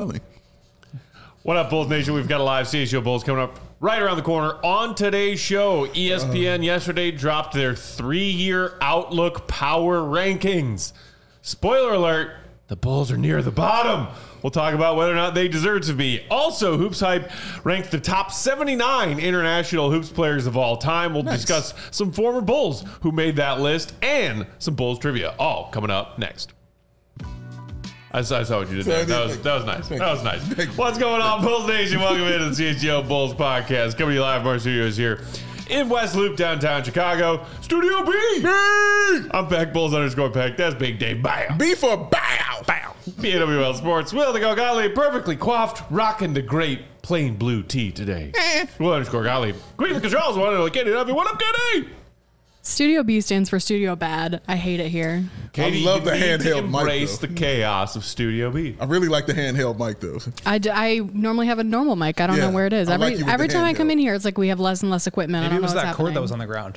telling. What up, Bulls Nation? We've got a live CHGO Bulls coming up right around the corner. On today's show, ESPN yesterday dropped their 3-year outlook power rankings. Spoiler alert, the Bulls are near the bottom. We'll talk about whether or not they deserve to be. Also, Hoops Hype ranked the top 79 international hoops players of all time. We'll discuss some former Bulls who made that list and some Bulls trivia. All coming up next. I saw what you did there. That was nice. That was nice. What's going on, Bulls Nation? Welcome into the CHGO Bulls podcast. Coming to you live from our studios here in West Loop, downtown Chicago. Studio B! I'm Peck, Bulls_Peck. That's Big Dave. Bow. B for bow. Bow. PWL Sports. Will the Go Gottlieb, perfectly coiffed, rocking the great plain blue tee today. Will_Gottlieb. Queen of the Controls, one of the Kenny W. What up, Kenny? Studio B stands for Studio Bad. I hate it here. Katie, I love the handheld mic, embrace though. the chaos of Studio B. I really like the handheld mic, though. I normally have a normal mic. I don't know where it is. I like you with Every the time I handheld. come in here, it's like we have less and less equipment. Maybe I it don't was know that what's cord that happening. was on the ground.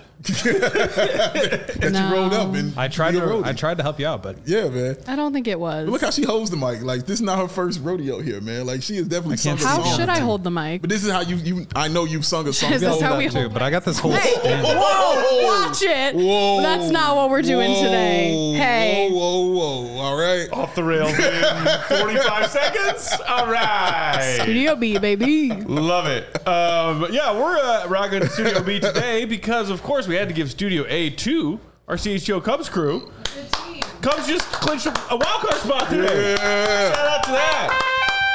That you rolled up and I tried to help you out, but Yeah, man. I don't think it was. But look how she holds the mic. Like, this is not her first rodeo here, man. Like, she has definitely sung a How song. should I hold the mic? But this is how you I know you've sung a song. Is this before. how we too. hold But I got this whole Hey, stand. whoa, watch it. Whoa. That's not what we're doing today. Hey. Whoa. All right. Off the rails in 45 seconds. All right. Studio B, baby. Love it. Yeah, we're rocking Studio B today because, of course, we had to give Studio A to our CHGO Cubs crew. Cubs just clinched a wildcard spot today. Shout out to that.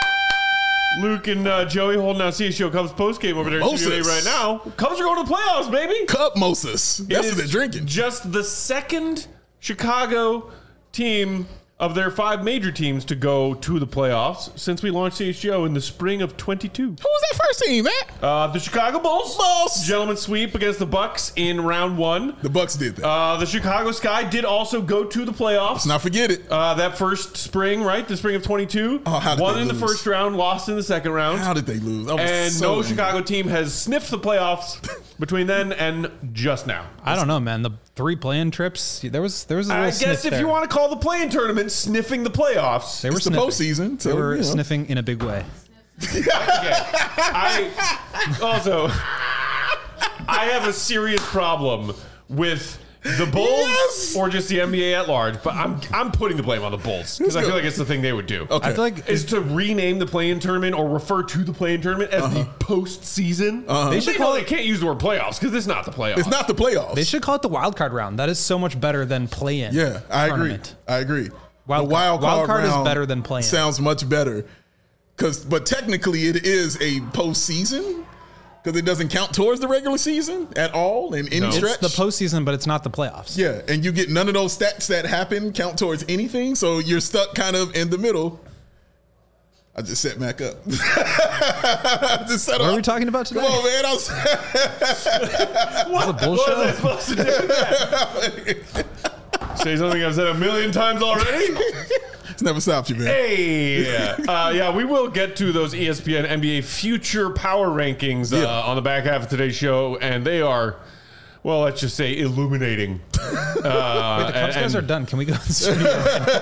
Luke and Joey holding out CHGO Cubs postgame over there in Studio A Moses. right now. Cubs are going to the playoffs, baby. Cup Moses. That's It what they're is drinking. Just the second Chicago team of their 5 major teams to go to the playoffs since we launched CHGO in the spring of 22. Who was that first team, man? The Chicago Bulls. Gentlemen's sweep against the Bucks in round 1. The Bucks did that. The Chicago Sky did also go to the playoffs. Let's not forget it. That first spring, right? The spring of 22. Oh, how did Won they in the lose? first round, lost in the second round. How did they lose? I was And so no angry. Chicago team has sniffed the playoffs between then and just now. I don't know, man. The 3 play-in trips, there was a little I sniff guess if there. you want to call the play-in tournament sniffing the playoffs. They were It's the sniffing. postseason. So, They were you know. sniffing in a big way. I have a serious problem with the Bulls Yes! or just the NBA at large, but I'm putting the blame on the Bulls because I feel like it's the thing they would do. Okay. I feel like Is to rename the play-in tournament or refer to the play-in tournament as the postseason. They should call They can't use the word playoffs because it's not the playoffs. It's not the playoffs. they should call it the wild card round. That is so much better than play-in. Yeah, I agree. tournament. I agree. Wild the wild card is round better than play-in. Sounds much better. But technically, it is a postseason because it doesn't count towards the regular season at all in any No. stretch. It's the postseason, but it's not the playoffs. Yeah, and you get none of those stats that happen count towards anything, so you're stuck kind of in the middle. I just set Mac up. I just set What up. are we talking about today? Come on, man. What bullshit? was I supposed to do with that? Say something I've said a million times already? It's never stopped you, man. Hey, yeah, we will get to those ESPN NBA future power rankings on the back half of today's show, and they are, well, let's just say illuminating. Wait, the Cubs guys are done. Can we go to the studio?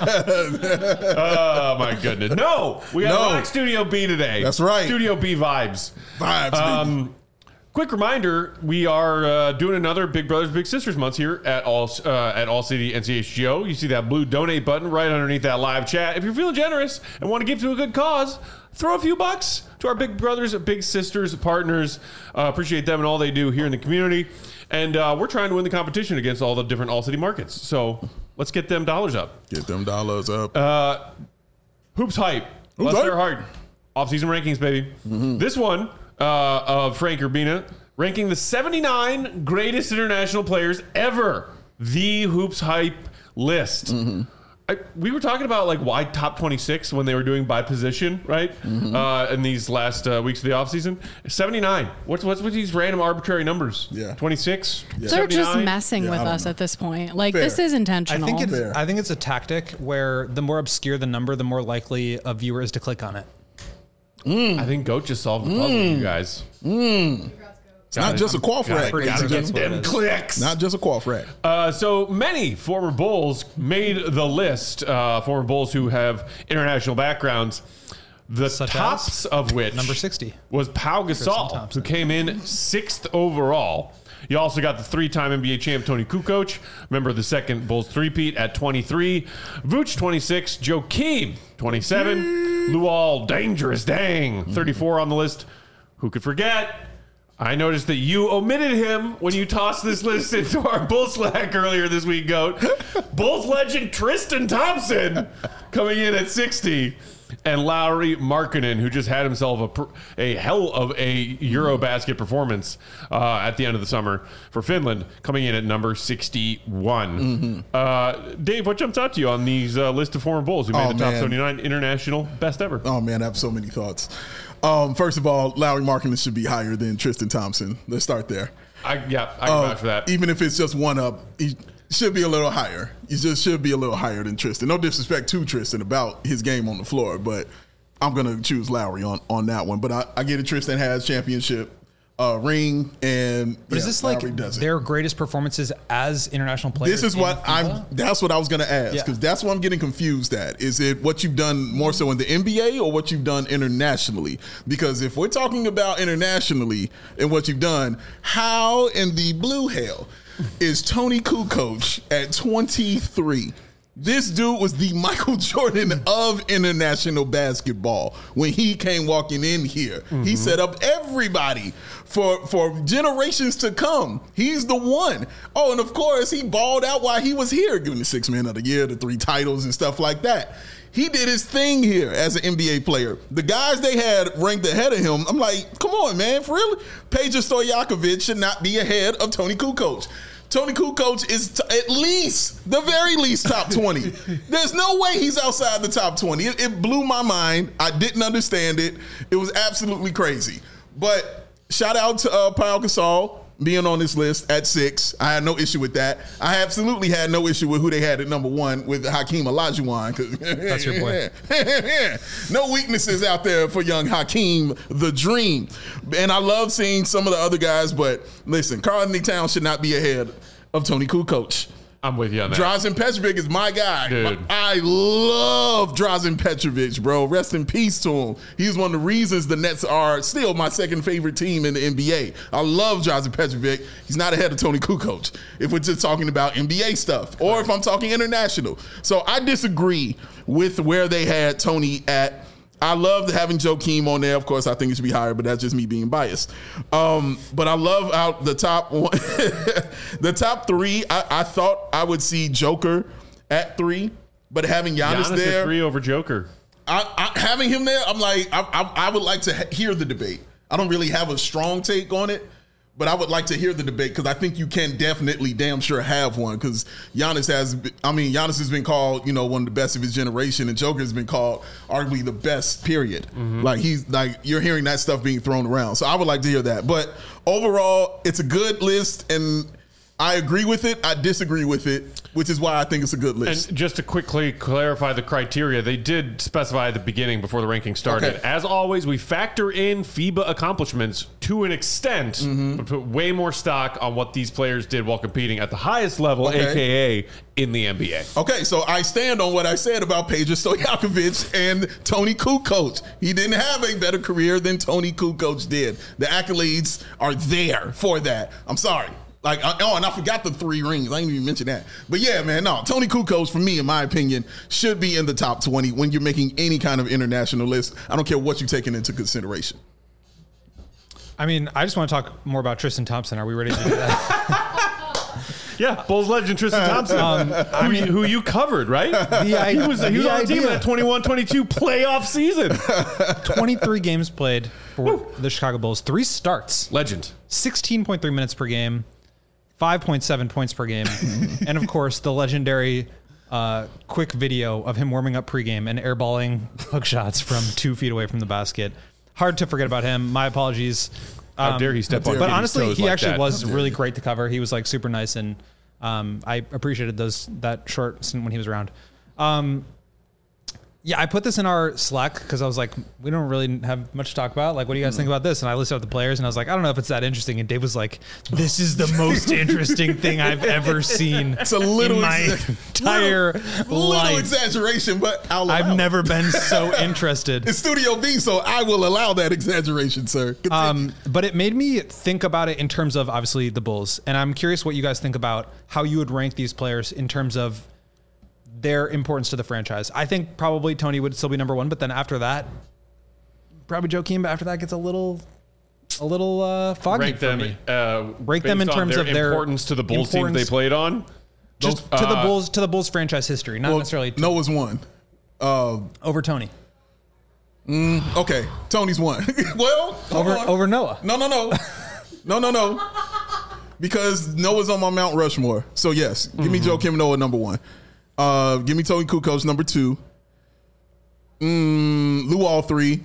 Oh my goodness! No, we got No. Black Studio B today. That's right. Studio B vibes. Vibes, baby. Quick reminder: we are doing another Big Brothers Big Sisters month here at All City and CHGO. You see that blue donate button right underneath that live chat. If you're feeling generous and want to give to a good cause, throw a few bucks to our Big Brothers Big Sisters partners. Appreciate them and all they do here in the community. And we're trying to win the competition against all the different All City markets. So let's get them dollars up. Get them dollars up. Hoops hype. Hoops Bless hype. their heart. Off-season rankings, baby. This one of Frank Urbina ranking the 79 greatest international players ever. The Hoops hype list. We were talking about like why top 26 when they were doing by position, right? In these last weeks of the offseason. 79. What's with these random arbitrary numbers? Yeah. 26? They're just 79? messing Yeah, with I don't us know. at this point. Like, Fair. this is intentional. Fair. I think it's a tactic where the more obscure the number, the more likely a viewer is to click on it. I think Goat just solved the puzzle, you guys. It's not just a quaff rack. ladies Gotta and get gentlemen. them clicks. Not just a quaff rack. So many former Bulls made the list. Former Bulls who have international backgrounds. The Such tops of which number 60 was Pau Gasol, Thompson. who came in 6th overall. You also got the 3-time NBA champ Tony Kukoc, member of the second Bulls three-peat at 23. Vooch, 26. Joakim, 27. Luol, Dangerous Dang, 34 on the list. Who could forget? I noticed that you omitted him when you tossed this list into our Bull Slack earlier this week, Goat. Bulls legend Tristan Thompson coming in at 60. And Lauri Markkanen, who just had himself a hell of a Eurobasket performance at the end of the summer for Finland, coming in at number 61. Dave, what jumps out to you on these list of former Bulls who made the top 79 international best ever? Oh, man, I have so many thoughts. First of all, Lauri Markkanen should be higher than Tristan Thompson. Let's start there. I can vouch for that. Even if it's just one up, he should be a little higher. He just should be a little higher than Tristan. No disrespect to Tristan about his game on the floor, but I'm going to choose Lauri on that one. But I get it. Tristan has championship ring, and But is this like their greatest performances as international players? This is what that's what I was going to ask, because that's what I'm getting confused at. Is it what you've done more so in the NBA or what you've done internationally? Because if we're talking about internationally and what you've done, how in the blue hell is Tony Kukoc at 23? This dude was the Michael Jordan of international basketball when he came walking in here. He set up everybody for generations to come. He's the one. Oh, and of course, he balled out while he was here, giving the 6th Man of the Year, the 3 titles and stuff like that. He did his thing here as an NBA player. The guys they had ranked ahead of him, I'm like, come on, man, for real? Peja Stojakovic should not be ahead of Tony Kukoc. Tony Kukoc is at least, the very least, top 20. There's no way he's outside the top 20. It blew my mind. I didn't understand it. It was absolutely crazy. But shout out to Pau Gasol being on this list at 6. I had no issue with that. I absolutely had no issue with who they had at number 1 with Hakeem Olajuwon. That's your boy. No weaknesses out there for young Hakeem the Dream. And I love seeing some of the other guys, but listen, Karl-Anthony Towns should not be ahead of Tony Kukoc. I'm with you on that. Drazen Petrovic is my guy. Dude. I love Drazen Petrovic, bro. Rest in peace to him. He's one of the reasons the Nets are still my second favorite team in the NBA. I love Drazen Petrovic. He's not ahead of Tony Kukoc if we're just talking about NBA stuff or if I'm talking international. So I disagree with where they had Tony at. I love having Joakim on there. Of course, I think it should be higher, but that's just me being biased. But I love out the top one, the top 3. I thought I would see Joker at 3, but having Giannis there, at 3 over Joker. Having him there, I'm like, I would like to hear the debate. I don't really have a strong take on it, but I would like to hear the debate because I think you can definitely damn sure have one because Giannis has been called, one of the best of his generation, and Joker has been called arguably the best, period. Like you're hearing that stuff being thrown around. So I would like to hear that. But overall, it's a good list and I agree with it. I disagree with it, which is why I think it's a good list. And just to quickly clarify the criteria, they did specify at the beginning before the ranking started. Okay. As always, we factor in FIBA accomplishments to an extent, but put way more stock on what these players did while competing at the highest level, a.k.a. in the NBA. Okay, so I stand on what I said about Peja Stojakovic and Tony Kukoc. He didn't have a better career than Tony Kukoc did. The accolades are there for that. I'm sorry. And I forgot the 3 rings. I didn't even mention that. But yeah, man, no. Tony Kukoc, for me, in my opinion, should be in the top 20 when you're making any kind of international list. I don't care what you're taking into consideration. I mean, I just want to talk more about Tristan Thompson. Are we ready to do that? Yeah, Bulls legend Tristan Thompson, who you covered, right? He was on the team in that 21-22 playoff season. 23 games played for the Chicago Bulls. 3 starts. Legend. 16.3 minutes per game. 5.7 points per game. And, of course, the legendary quick video of him warming up pregame and airballing hook shots from 2 feet away from the basket. Hard to forget about him. My apologies. How dare he step on But honestly, toes he like actually that. was really great to cover. He was like super nice, and I appreciated that short stint when he was around. Yeah, I put this in our Slack because I was like, we don't really have much to talk about. Like, what do you guys think about this? And I listed out the players, and I was like, I don't know if it's that interesting. And Dave was like, this is the most interesting thing I've ever seen It's a little in my entire little life. exaggeration, but I've never been so interested. It's Studio B, so I will allow that exaggeration, sir. Continue. But it made me think about it in terms of obviously the Bulls. And I'm curious what you guys think about how you would rank these players in terms of their importance to the franchise. I think probably Tony would still be number one, but then after that, probably Joakim. But after that gets a little foggy Rank for them, me. rank them in terms of their importance to the Bulls team they played on. Just to the Bulls franchise history, not necessarily Noah's one. over Tony. Okay, Tony's one. Well, Over Noah. No. Because Noah's on my Mount Rushmore. So yes, give me Joakim Noah number one. Give me Tony Kukoc number two. Luol 3.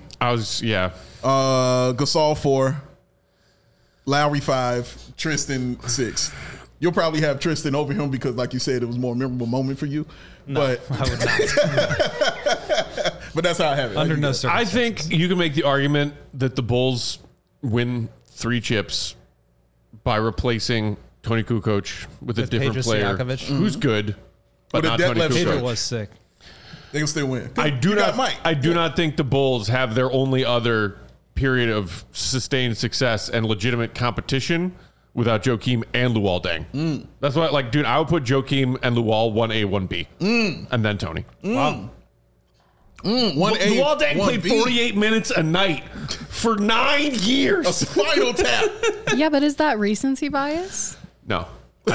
Gasol 4. Lowry 5. Tristan 6. You'll probably have Tristan over him because, like you said, it was a more memorable moment for you. No, but I would not. but that's how I have it. Under no I circumstances. think you can make the argument that the Bulls win 3 chips by replacing Tony Kukoc with a different Pedro player Stojakovic. who's good, but With a not dead Tony left Pedro Kukoc. was sick. They can still win. I do not think the Bulls have their only other period of sustained success and legitimate competition without Joakim and Luol Deng. That's why, like, dude, I would put Joakim and Luol 1A, 1B, and then Tony. Wow. 1A, Luol Deng played 1B. 48 minutes a night for 9 years. A spinal tap. Yeah, but is that recency bias? No.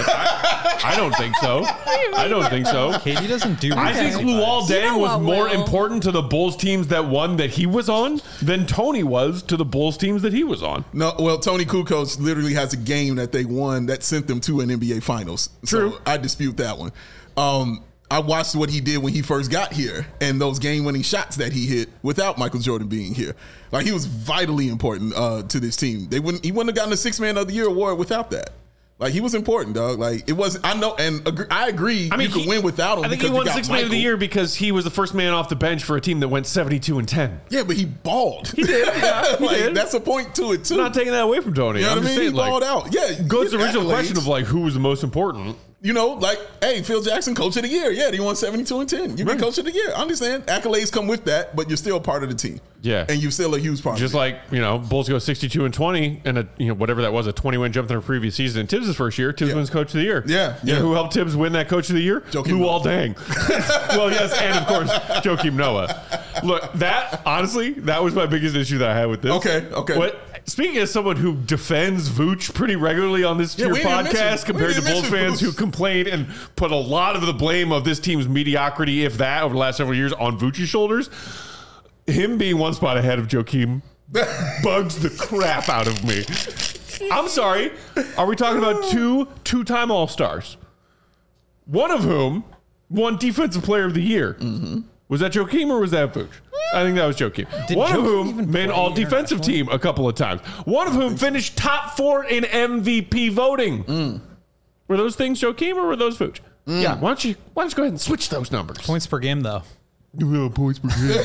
I don't think so. I don't think so. Katie doesn't do. I think recency Luol bias. You Deng know was what, more Will? important to the Bulls teams that won that he was on than Tony was to the Bulls teams that he was on. No, well, Tony Kukoc literally has a game that they won that sent them to an NBA Finals. True. So I dispute that one. I watched what he did when he first got here and those game-winning shots that he hit without Michael Jordan being here. Like, he was vitally important to this team. He wouldn't have gotten the Sixth Man of the Year award without that. Like, he was important, dog. Like, it was. I know, and I agree. You could win without him. I think because he won you got Sixth Man of the Michael. Year because he was the first man off the bench for a team that went 72-10. Yeah, but he balled. He did. Yeah, he like, did. That's a point to it too. I'm not taking that away from Tony. You know I'm what I just mean? saying, He balled like, out. Yeah, goes to the get original accolades. question of like who was the most important. You know, like, hey, Phil Jackson, Coach of the Year. Yeah, he won 72-10. You get Coach of the Year. I understand. Accolades come with that, but you're still part of the team. Yeah. And you're still a huge part Just of it. like, you know, Bulls go 62-20 and whatever that was, a 20-win jump in their previous season. Tibbs' first year, Tibbs wins Coach of the Year. Yeah, You know yeah. who helped Tibbs win that Coach of the Year? Joakim Luol Deng. Well, yes, and of course, Joakim Noah. Look, that, honestly, that was my biggest issue that I had with this. Okay. Speaking as someone who defends Vooch pretty regularly on this Yeah, tier we didn't mention- podcast we compared to didn't Bulls mention fans Vooch. who complain and put a lot of the blame of this team's mediocrity, if that, over the last several years on Vooch's shoulders, him being one spot ahead of Joakim bugs the crap out of me. I'm sorry. Are we talking about two-time All-Stars? One of whom won Defensive Player of the Year. Was that Joakim or was that Vooch? I think that was Joakim. One of Joakim whom even made play all-defensive team a couple of times. One of whom finished top 4 in MVP voting. Were those things Joakim or were those Vooch? Yeah. Why don't you go ahead and switch those numbers? Points per game, though. Points per game.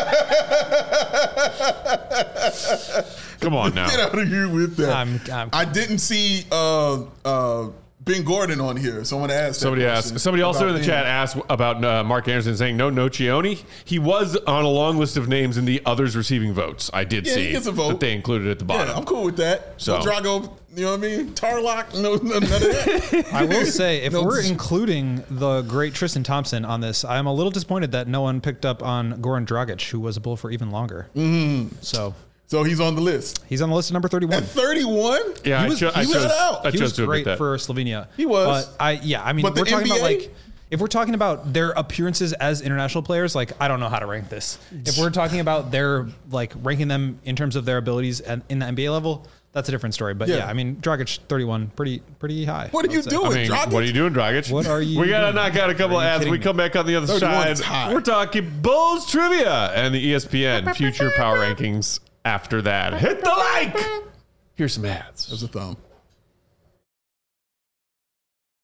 Come on now. Get out of here with that. I'm- I didn't see Ben Gordon on here. Someone asked. Somebody asked. Somebody also in the chat asked about Mark Anderson saying no Nocioni. He was on a long list of names in the others receiving votes. I did Yeah, he see gets a vote. that they included at the bottom. Yeah, I'm cool with that. So- So Drago, you know what I mean? Tarlock, no, none of that. I will say, if No, we're this- including the great Tristan Thompson on this, I'm a little disappointed that no one picked up on Goran Dragic, who was a Bull for even longer. So So he's on the list. he's on the list at number 31. At 31? Yeah, He was- I he was- chose was to admit great that. for Slovenia. He was. But I mean, But the we're talking about NBA? like, if we're talking about their appearances as international players, like, I don't know how to rank this. If we're talking about their, like, ranking them in terms of their abilities in the NBA level, that's a different story. But Yeah. yeah, I mean, Dragic 31, pretty high. What are I you would say. doing, I mean, Dragic? what are you doing, Dragic? What are you We got to doing? knock out a couple Are of you ads. kidding We me? come back on the other 31 side. is high. We're talking Bulls trivia and the ESPN future power rankings after that. Hit the like. Here's some ads. There's a thumb.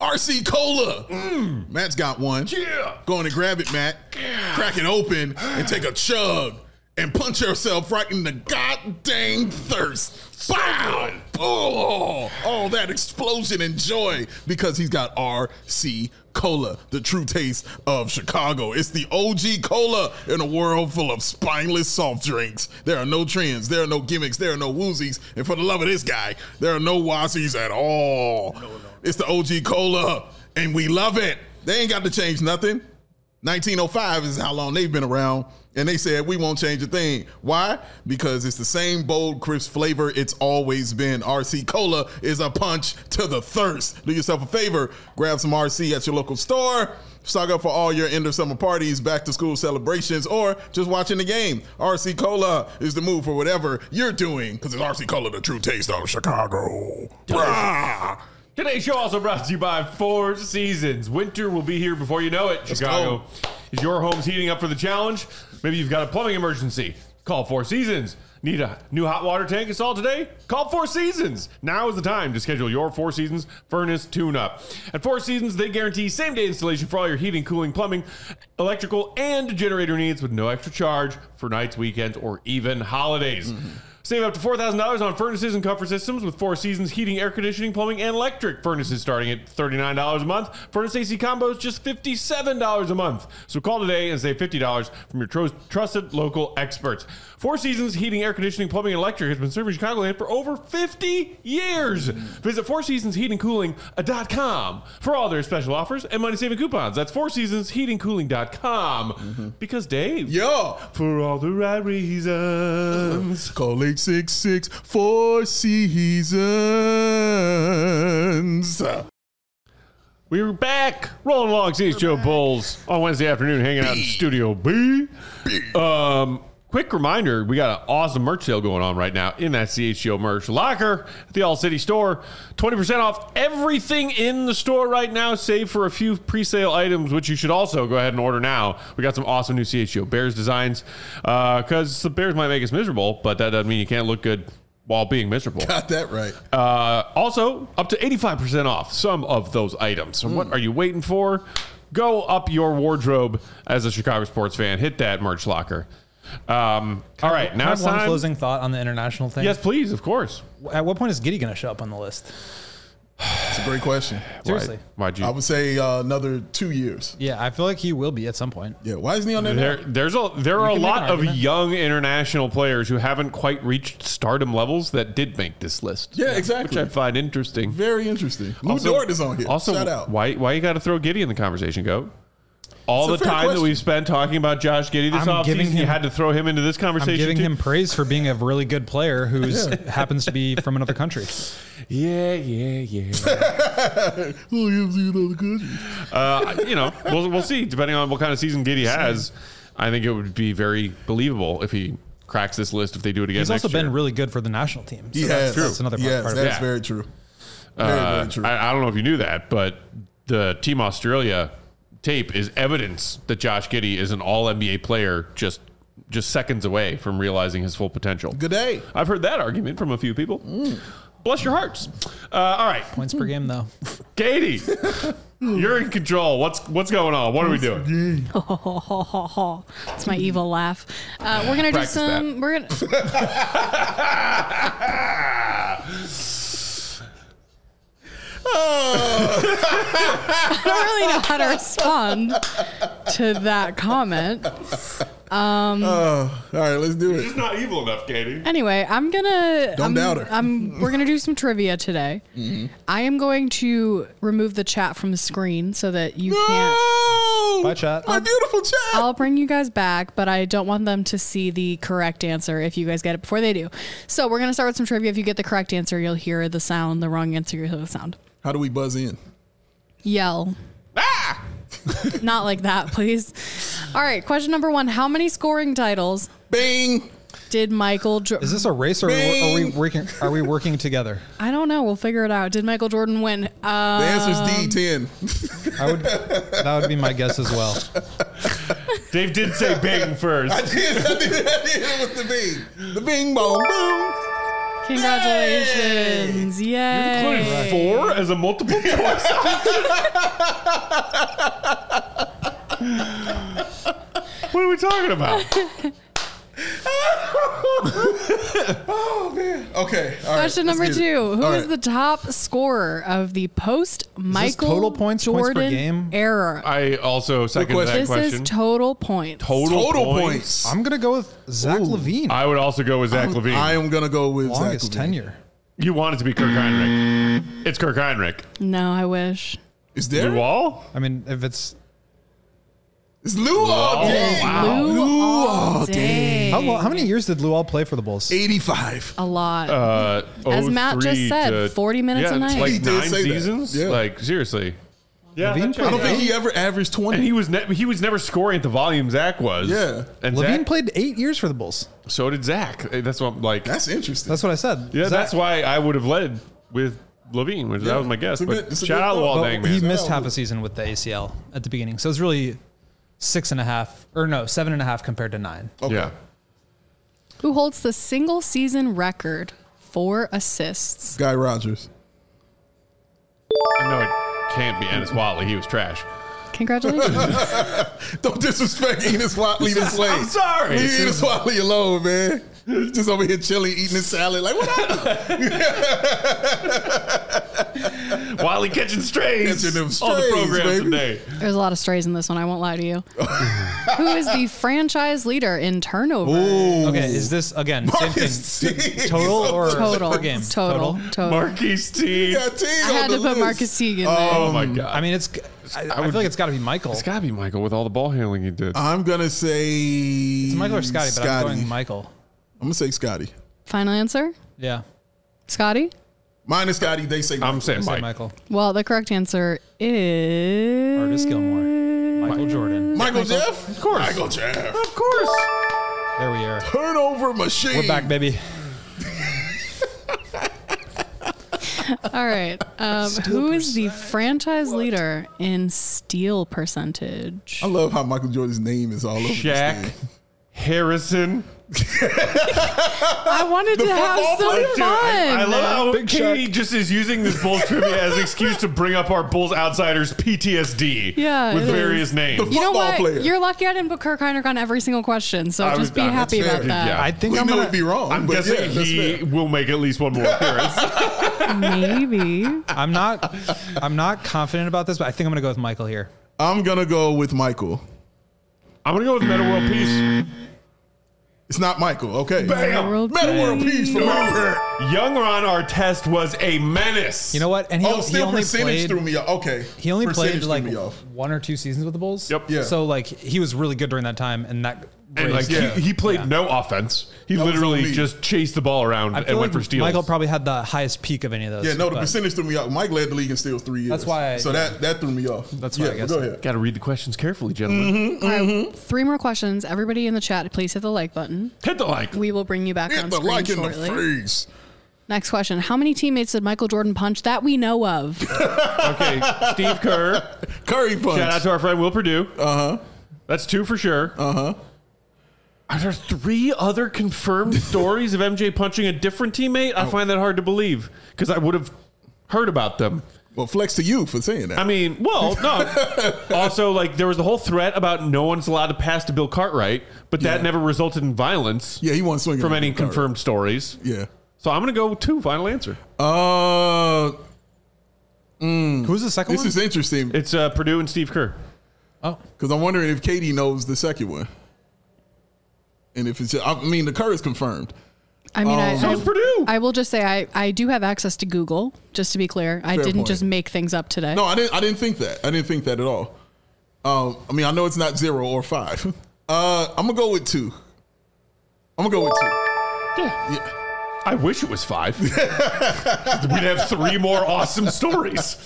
RC Cola. Matt's got one. Yeah. Go on and grab it, Matt. Crack it open and take a chug and punch yourself right in the goddamn thirst. Wow! Oh, that explosion and joy because he's got RC Cola, the true taste of Chicago. It's the OG cola in a world full of spineless soft drinks. There are no trends, there are no gimmicks, there are no woozies, and for the love of this guy, there are no wassies at all. No. It's the OG cola, and we love it. They ain't got to change nothing. 1905 is how long they've been around, and they said we won't change a thing. Why? Because it's the same bold, crisp flavor it's always been. RC Cola is a punch to the thirst. Do yourself a favor, grab some RC at your local store, stock up for all your end of summer parties, back to school celebrations, or just watching the game. RC Cola is the move for whatever you're doing, because it's RC Cola, the true taste of Chicago. Today's show also brought to you by Four Seasons. Winter will be here before you know it. Chicago, is your home's heating up for the challenge? Maybe you've got a plumbing emergency. Call Four Seasons. Need a new hot water tank installed today? Call Four Seasons. Now is the time to schedule your Four Seasons furnace tune-up. At Four Seasons, they guarantee same-day installation for all your heating, cooling, plumbing, electrical, and generator needs with no extra charge for nights, weekends, or even holidays. Save up to $4,000 on furnaces and comfort systems with Four Seasons heating, air conditioning, plumbing, and electric. Furnaces starting at $39 a month. Furnace AC combos just $57 a month. So call today and save $50 from your trusted local experts. Four Seasons heating, air conditioning, plumbing, and electric has been serving Chicagoland for over 50 years. Visit FourSeasonsHeatingCooling.com for all their special offers and money-saving coupons. That's FourSeasonsHeatingCooling.com. Because Dave, for all the right reasons. Call 866 Four Seasons. We're back, rolling along CHGO Bulls on Wednesday afternoon, hanging out in Studio B. Quick reminder, we got an awesome merch sale going on right now in that CHGO merch locker at the All City store. 20% off everything in the store right now, save for a few pre-sale items, which you should also go ahead and order now. We got some awesome new CHGO Bears designs because the Bears might make us miserable, but that doesn't mean you can't look good while being miserable. Got that right. Also, up to 85% off some of those items. So what are you waiting for? Go up your wardrobe as a Chicago sports fan. Hit that merch locker. All right, now it's time. One closing thought on the international thing. Yes, please, of course. At what point is Giddey going to show up on the list? It's a great question. Seriously. Why'd you? I would say another 2 years. Yeah, I feel like he will be at some point. Yeah, why isn't he on there? There are a lot of young international players who haven't quite reached stardom levels that did make this list. Yeah, exactly. Which I find interesting. Very interesting. Lou Dort is on here. Also, shout out. Why you got to throw Giddey in the conversation, Goat? All It's the a fair time question. that we've spent talking about Josh Giddey this offseason, you had to throw him into this conversation. I'm giving too? him praise for being a really good player who happens to be from another country. Yeah. We'll see. Depending on what kind of season Giddey has, I think it would be very believable if he cracks this list if they do it again. He's also been really good for the national team. So that's another part of it. That's very true. Very true. I don't know if you knew that, but the Team Australia tape is evidence that Josh Giddey is an all-NBA player just seconds away from realizing his full potential. Good day. I've heard that argument from a few people. Bless your hearts. All right. Points per game, though. Katie, you're in control. What's going on? What are we doing? It's my evil laugh. We're gonna Practice do some. We're gonna. I don't really know how to respond to that comment. All right, let's do It's it. not evil enough, Katie. Anyway, Don't doubt her. We're gonna do some trivia today. I am going to remove the chat from the screen so that you can't. Bye, chat. My beautiful chat. I'll bring you guys back, but I don't want them to see the correct answer if you guys get it before they do. So we're gonna start with some trivia. If you get the correct answer, you'll hear the sound. The wrong answer, you'll hear the sound. How do we buzz in? Yell. Not like that, please. All right, question number 1. How many scoring titles Bing. did Michael Jordan... Is this a race or are we working together? I don't know. We'll figure it out. Did Michael Jordan win? The answer is D10. That would be my guess as well. Dave did say bing first. I did. It was the bing. The bing, boom, boom. Congratulations. Yay. Included 4 as a multiple choice. What are we talking about? Oh man. Okay. All right. Question number 2. Who is the top scorer of the post-Michael total points per Jordan game? era? I also second that This question. is total points. Total points. I'm gonna go with Zach Levine. I would also go with Zach Levine. I am gonna go with Longest Zach Levine. tenure. You want it to be Kirk Heinrich. It's Kirk Heinrich. No, I wish. Is there? Blue Wall? I mean, if it's It's Lou all day. Lou all all day. how many years did Luol play for the Bulls? 85. A lot. As Matt just said, 40 minutes a night. Like He did 9 say that. seasons? Yeah. Like, seriously. Yeah, Levine that I don't checks think out. he ever averaged 20. And he was never scoring at the volume Zach was. Yeah. And Levine Zach, played 8 years for the Bulls. so did Zach. That's what I'm like. That's interesting. That's what I said. Yeah, Zach- that's why I would have led with Levine, which that was my guess. it's a But good- it's a shout good out call. Luol Well, Deng, he man. missed half a season with the ACL at the beginning, so it was really 7.5 compared to 9. Okay. Yeah. Who holds the single season record for assists? Guy Rogers. No, it can't be Ennis Watley. He was trash. Congratulations. Don't disrespect Enos Watley this way. I'm sorry. Leave Enos Watley alone, man. He's just over here chilling, eating his salad. Like, what happened? Watley catching strays, Catching them on the strays, program baby. today. There's a lot of strays in this one. I won't lie to you. Who is the franchise leader in turnover? Okay, is this again Marcus same thing? Teague. Total or Total. per game? Total. Marquise T. Yeah, Teague I on had the to put list. Marcus Teague in there. Oh my god. I mean, I feel like it's got to be Michael. It's got to be Michael with all the ball handling he did. I'm going to say... It's Michael or Scotty, but I'm going Michael. I'm going to say Scotty. Final answer? Yeah, Scotty? Mine is Scotty. They say I'm saying say Mike. Michael. Well, the correct answer is Artis Gilmore, Michael Jordan. Michael Jeff? Of course. Michael Jeff. Of course. There we are. Turnover machine. We're back, baby. all right. Who is the franchise leader in steal percentage? I love how Michael Jordan's name is all over this Shaq thing. Harrison. I wanted to have football some player? fun. I love how Big Katie just is using this Bulls trivia as an excuse to bring up our Bulls outsiders PTSD Yeah, with it various is. names. You know Football what? player. You're lucky I didn't put Kirk Heinrich on every single question, so I just was- be that's happy fair. about that. Yeah. I think We I'm knew gonna. it'd be wrong. I'm but guessing yeah, that's he fair. will make at least one more appearance. Maybe. I'm not confident about this, but I think I'm gonna go with Michael here. I'm going to go with Michael. I'm going to go with Meta World Peace. It's not Michael. Okay. Bam! World Meta World Peace for my Young Ron Artest was a menace. You know what? And he, Oh, he still only percentage threw played. me off. Okay. He only played Percentage like threw me off. 1 or 2 seasons with the Bulls. Yep. Yeah. So like he was really good during that time, and that. And like Yeah. he played no offense. He That was literally on me. just chased the ball around I and feel went like for steals. Michael probably had the highest peak of any of those. Yeah, no, the but percentage threw me off. Mike led the league in steals 3 years. That's why I- So that threw me off. That's why I guess Go so. ahead. Got to read the questions carefully, gentlemen. All right, 3 more questions. Everybody in the chat, please hit the like button. Hit the like. We will bring you back Hit on the screen like in the shortly. face. Next question. How many teammates did Michael Jordan punch that we know of? Okay, Steve Kerr. Curry punch. Shout out to our friend Will Perdue. That's 2 for sure. Are there 3 other confirmed stories of MJ punching a different teammate? I find that hard to believe because I would have heard about them. Well, flex to you for saying that. I mean, well, no. Also, like, there was the whole threat about no one's allowed to pass to Bill Cartwright, but that Yeah. never resulted in violence yeah, he wasn't swinging from on any the card. confirmed stories. Yeah. So I'm going to go with 2, final answer. Who's the second This one? is interesting It's Purdue and Steve Kerr. Oh, because I'm wondering if Katie knows the second one. And if it's, I mean, the Curry is confirmed. I mean, So it's Purdue. I will just say I do have access to Google, just to be clear. I Fair didn't point. just make things up today. No, I didn't think that. I didn't think that at all. I mean, I know it's not 0 or 5. I'm gonna go with 2. I'm gonna go with 2. Yeah. I wish it was 5. We'd have 3 more awesome stories.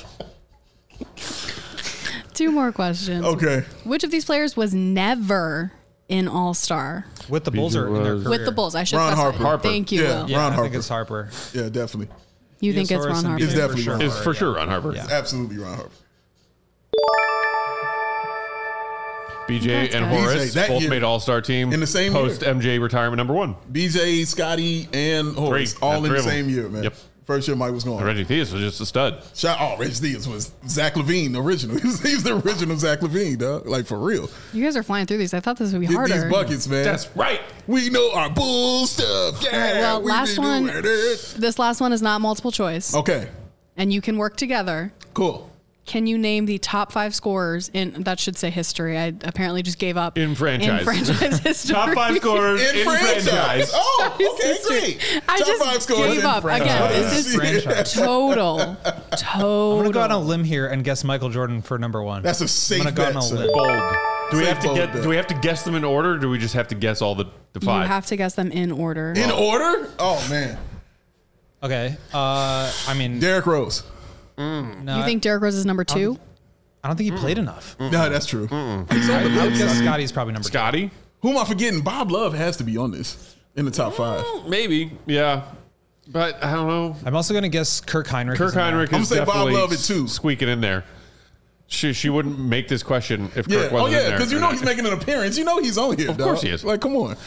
2 more questions. Okay. Which of these players was never in All-Star? with the Bulls or in their career? With the Bulls, I should Ron specify. Harper. Thank you, Yeah. Will. Yeah, Ron I Harper. think it's Harper. Yeah, definitely. You think it's Theosaurus Ron and Harper? It's BJ definitely for Ron sure. It's for sure Ron Harper. Yeah. Absolutely Ron Harper. BJ and good. Horace BJ, that both year. made All-Star team In the same post year. MJ retirement number 1. BJ, Scotty, and Horace Three. all Yeah, in three the of them. same year, man. Yep. First year Mike was going. Reggie Theus was just a stud. Reggie Theus was Zach LaVine original. He was the original Zach LaVine, dog. Like for real. You guys are flying through these. I thought this would be Get harder. these buckets, man. That's right. We know our bull stuff. Yeah. All right, well, we last be one. doing it. This last one is not multiple choice, Okay. and you can work together. Cool. Can you name the top 5 scorers in, that should say history. I apparently just gave up. In franchise. In franchise history. Top 5 scorers in franchise. Oh, okay, History. great. I Top just 5 scores gave in up. franchise. Again, this is Franchise. total. I'm gonna go on a Total. limb here and guess Michael Jordan for number 1. That's a safe I'm gonna go bet, on a sir. limb. Bold. Do we Say have to bold get? bet. Do we have to guess them in order? Or do we just have to guess all the You 5? have to guess them in order. In order? Oh, man. Okay. I mean, Derrick Rose. no, You think Derrick Rose is number 2? I don't think he played enough. No, that's true. He's on the I would list. guess Scotty's probably number 2. Scotty? Who am I forgetting? Bob Love has to be on this in the top 5. Maybe. Yeah. But I don't know. I'm also gonna guess Kirk Heinrich. Kirk is in there. Heinrich I'm is gonna say Bob definitely Love at 2. squeaking in there. She wouldn't make this question if Yeah. Kirk Oh, wasn't in yeah, there. because you know he's making an appearance. You know he's on here. Of course he is. Like, come on.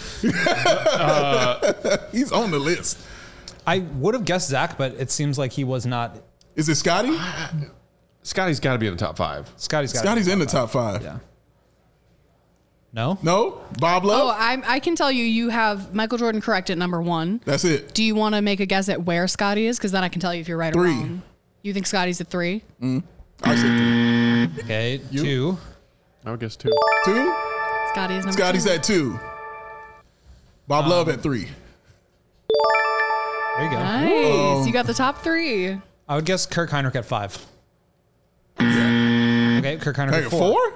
He's on the list. I would have guessed Zach, but it seems like he was not. Is it Scotty? Scotty's got to be in the top 5. Scotty's got. Scotty's in the top 5. Yeah. No. No? Bob Love? Oh, I can tell you, you have Michael Jordan correct at number 1. That's it. Do you want to make a guess at where Scotty is? Because then I can tell you if you're right 3. or wrong. You think Scotty's at 3? I said 3. Okay. You? 2. I would guess 2. 2? Scotty is number Scotty's 2. at 2. Bob Love at 3. There you go. Nice. You got the top 3. I would guess Kirk Heinrich at 5. Okay, Kirk Heinrich Hey, at 4? 4.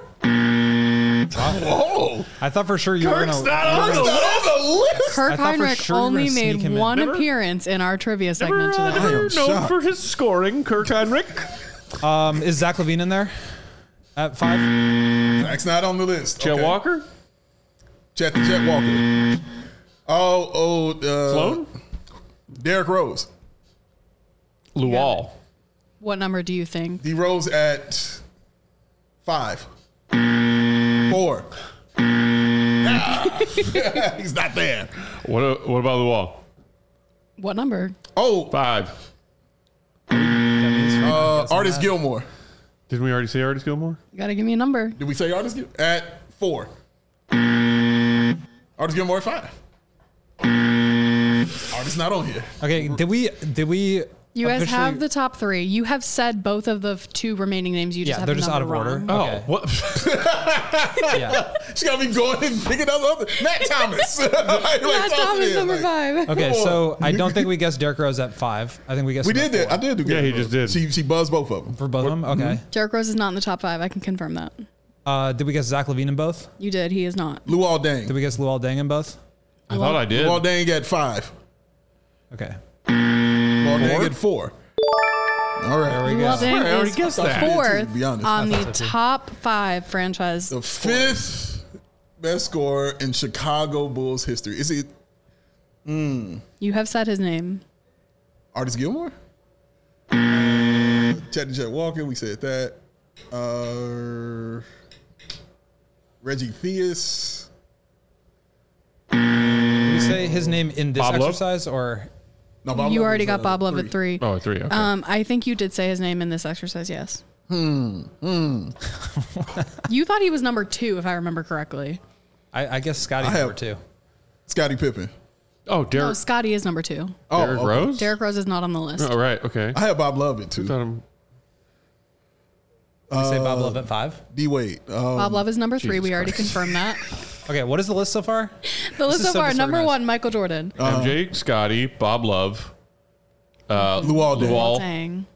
Whoa. I thought for sure you were Kirk's gonna. not on That's the not list. on the list. Kirk I thought for Heinrich sure you were only gonna sneak made him in. one Never- appearance in our trivia segment today. Never known shocked. for his scoring, Kirk Heinrich. Is Zach LaVine in there? At 5. That's not on the list. Chet Okay. Walker? Chet Walker. Sloan? Derrick Rose. Luol. What number do you think? D Rose at 5. 4. He's not there. What about Luol? What number? Oh, 5. Artist Gilmore. Didn't we already say Artis Gilmore? You got to give me a number. Did we say Artist Gilmore? At 4. Artist Gilmore at 5. Artist not on here. Okay. Did we? You guys officially- have the top 3. You have said both of the 2 remaining names. You just Yeah, have they're the just out of number order. wrong. Okay. Oh, what? Yeah. She got me going and picking up other. Matt Thomas. Like, Matt toss it Thomas in, number like- 5. Okay. So I don't think we guessed Derrick Rose at 5. I think we guessed. We him at did that. 4. I did do Yeah, he good. just did. She buzzed both of them. For both of them. Okay. Derrick Rose is not in the top 5. I can confirm that. Did we guess Zach LaVine in both? You did. He is not. Luol Deng. Did we guess Luol Deng in both? I thought I did. Luol Deng at 5. Okay. Luol Deng at 4. All right. There we Luol go. Deng I already is guessed that. I did too, to fourth be honest. on I the thought so too. top 5 franchise. The 5th best scorer in Chicago Bulls history. Is it You have said his name. Artist Gilmore? Chet Walker, we said that. Reggie Theus. Did we say his name in this Bob Love? exercise or? No, Bob You Love already was, got Bob Love at 3. Oh, 3. Okay. I think you did say his name in this exercise, yes. You thought he was number 2, if I remember correctly. I guess Scotty's I have- number 2. Scottie Pippen. oh, No, Derrick Scotty is number 2. Oh, Derrick okay. Rose? Derrick Rose is not on the list. Oh, right. Okay. I have Bob Love at 2. Thought him. Did we say Bob Love at 5? D Wade. Bob Love is number 3. Jesus We already Christ. confirmed that. Okay. What is the list so far? The list is so so far, number disorganized. 1, Michael Jordan. MJ, Scotty, Bob Love, Luol Deng. Luol. Dang.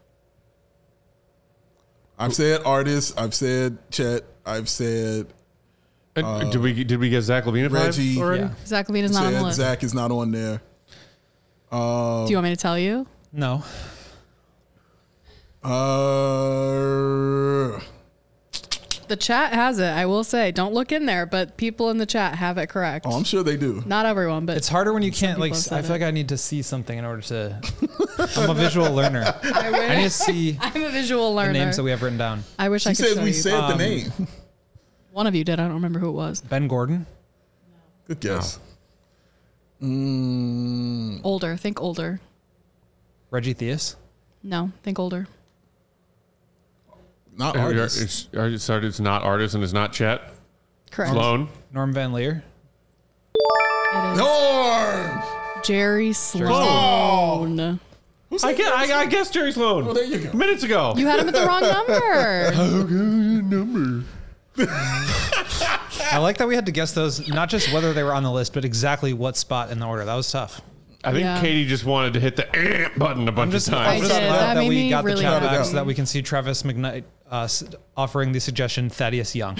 I've said Artist. I've said Chet. I've said And did we get Zach LaVine at 5 Reggie. already? Yeah. Zach LaVine is not on the said list. Zach is not on there. Do you want me to tell you? No. The chat has it, I will say. Don't look in there, but people in the chat have it correct. I'm sure they do. Not everyone, but It's harder when you can't people like. have said I feel it. like I need to see something in order to. I'm a visual learner. I I need to wish. see I'm a visual the learner. names that we have written down. I wish I She could says show we you. said the name. One of you did. I don't remember who it was. Ben Gordon. Good guess. Older. Think older. Reggie Theus. No, think older. Not artist. It's not artist and it's not Chet. Correct. Sloan. Norm Van Leer. It is Norm! Jerry Sloan. Who's I that? guess Jerry Sloan. Oh, there you go. Minutes ago. You had him at the wrong number. I like that we had to guess those, not just whether they were on the list, but exactly what spot in the order. That was tough. I think Katie just wanted to hit the button a bunch of times. I'm just I did. glad That that we made got me the really chat happy. back so that we can see Travis McKnight offering the suggestion Thaddeus Young.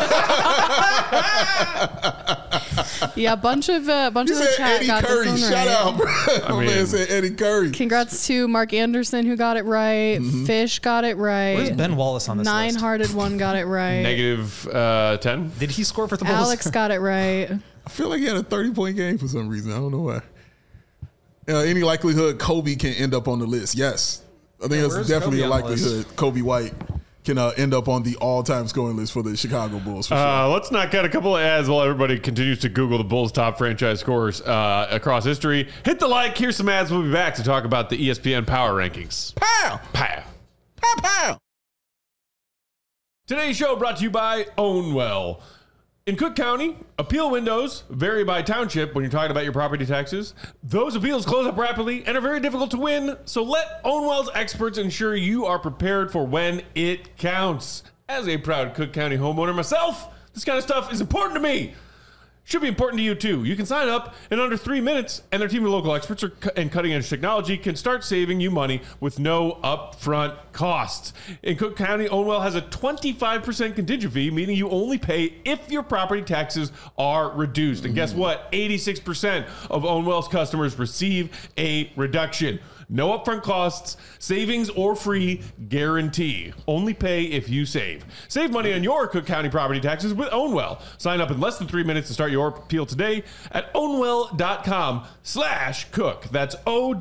Yeah, a bunch of He the said chat Eddie got Curry. this one Shout right. out, bro. My mean- man said Eddie Curry. Congrats to Mark Anderson who got it right. Fish got it right. Where's Ben Wallace on this list? Nine-hearted one got it right. Negative 10. Did he score for the Bulls? Alex got it right. I feel like he had a 30-point game for some reason. I don't know why. Any likelihood Kobe can end up on the list? Yes. I think where's there's definitely Kobe a on the list? likelihood Kobe White can end up on the all-time scoring list for the Chicago Bulls. For sure. Let's knock out a couple of ads while everybody continues to Google the Bulls' top franchise scorers across history. Hit the like. Here's some ads. We'll be back to talk about the ESPN Power Rankings. Pow! Pow. Pow, pow! Today's show brought to you by Ownwell. In Cook County, appeal windows vary by township when you're talking about your property taxes. Those appeals close up rapidly and are very difficult to win, so let Ownwell's experts ensure you are prepared for when it counts. As a proud Cook County homeowner myself, this kind of stuff is important to me. Should be important to you too. You can sign up in under 3 minutes, and their team of local experts and cutting-edge technology can start saving you money with no upfront costs. In Cook County, Ownwell has a 25% contingent fee, meaning you only pay if your property taxes are reduced. And guess what? 86% of Ownwell's customers receive a reduction. No upfront costs, savings, or free guarantee. Only pay if you save. Save money on your Cook County property taxes with Ownwell. Sign up in less than 3 minutes to start your appeal today at ownwell.com/cook. That's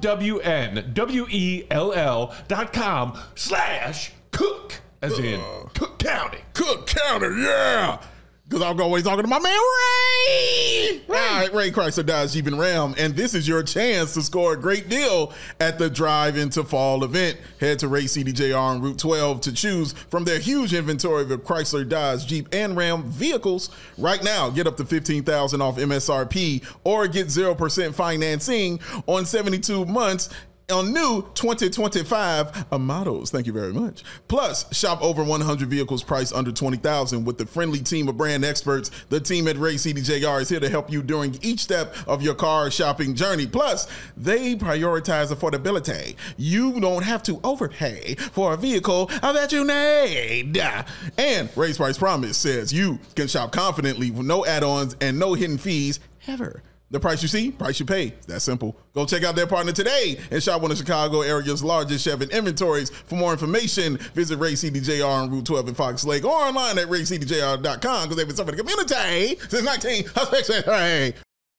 OWNWELL.com/cook. As in Cook County. Cook County, yeah! Because I'm always talking to my man Ray. All right, Ray Chrysler Dodge Jeep and Ram, and this is your chance to score a great deal at the Drive Into Fall event. Head to Ray CDJR on Route 12 to choose from their huge inventory of Chrysler Dodge Jeep and Ram vehicles. Right now, get up to $15,000 off MSRP or get 0% financing on 72 months on new 2025 models. Thank you very much. Plus, shop over 100 vehicles priced under $20,000 with the friendly team of brand experts. The team at Ray CDJR is here to help you during each step of your car shopping journey. Plus, they prioritize affordability. You don't have to overpay for a vehicle that you need. And Ray's Price Promise says you can shop confidently with no add-ons and no hidden fees ever. The price you see, price you pay. It's that simple. Go check out their partner today and shop one of Chicago area's largest Chevy inventories. For more information, visit Ray CDJR on Route 12 in Fox Lake or online at raycdjr.com because they've been serving the community since 1963.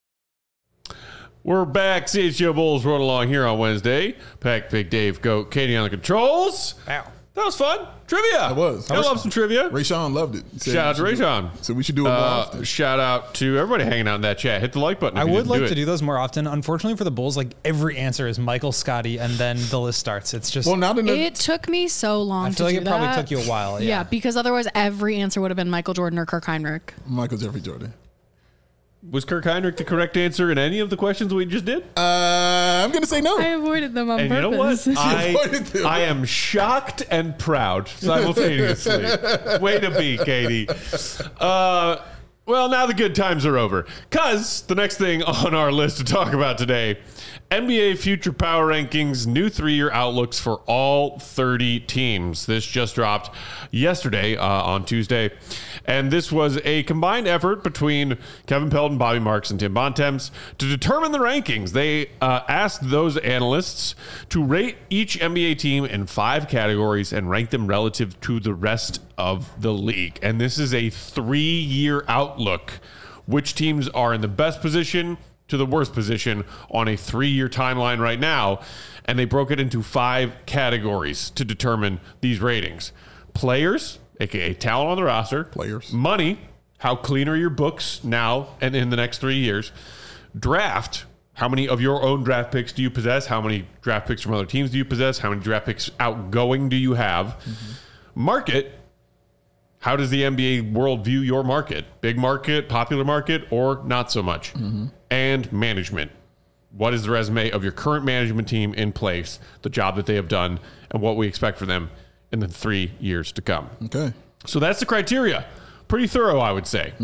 We're back. CHGO Bulls rolling along here on Wednesday. Pack, Big Dave, Goat, Katie on the controls. Wow. That was fun. Trivia. It was. I love some trivia. Rayshawn loved it. Shout out to Rayshawn. So we should do it more often. Shout out to everybody hanging out in that chat. Hit the like button. I if you would didn't like do to it. do those more often. Unfortunately for the Bulls, like every answer is Michael, Scotty, and then the list starts. It's just Well, now that It took me so long I to feel like do it probably that. took you a while. Yeah. Yeah. Because otherwise every answer would have been Michael Jordan or Kirk Heinrich. Michael Jeffrey Jordan. Was Kirk Heinrich the correct answer in any of the questions we just did? I'm going to say no. I avoided them on And you know purpose. what? avoided them. I am shocked and proud simultaneously. Way to be, Katie. Well, now the good times are over. Because the next thing on our list to talk about today, NBA Future Power Rankings, new 3-year outlooks for all 30 teams. This just dropped yesterday on Tuesday. And this was a combined effort between Kevin Pelton, Bobby Marks, and Tim Bontemps to determine the rankings. They asked those analysts to rate each NBA team in 5 categories and rank them relative to the rest of the league. And this is a 3-year outlook. Which teams are in the best position to the worst position on a 3-year timeline right now. And they broke it into 5 categories to determine these ratings. Players, aka talent on the roster, Players. money, how clean are your books now and in the next 3 years, draft, how many of your own draft picks do you possess, how many draft picks from other teams do you possess, how many draft picks outgoing do you have, market, how does the NBA world view your market, big market, popular market, or not so much, and management. What is the resume of your current management team in place, the job that they have done, and what we expect for them in the 3 years to come? Okay. So that's the criteria. Pretty thorough, I would say.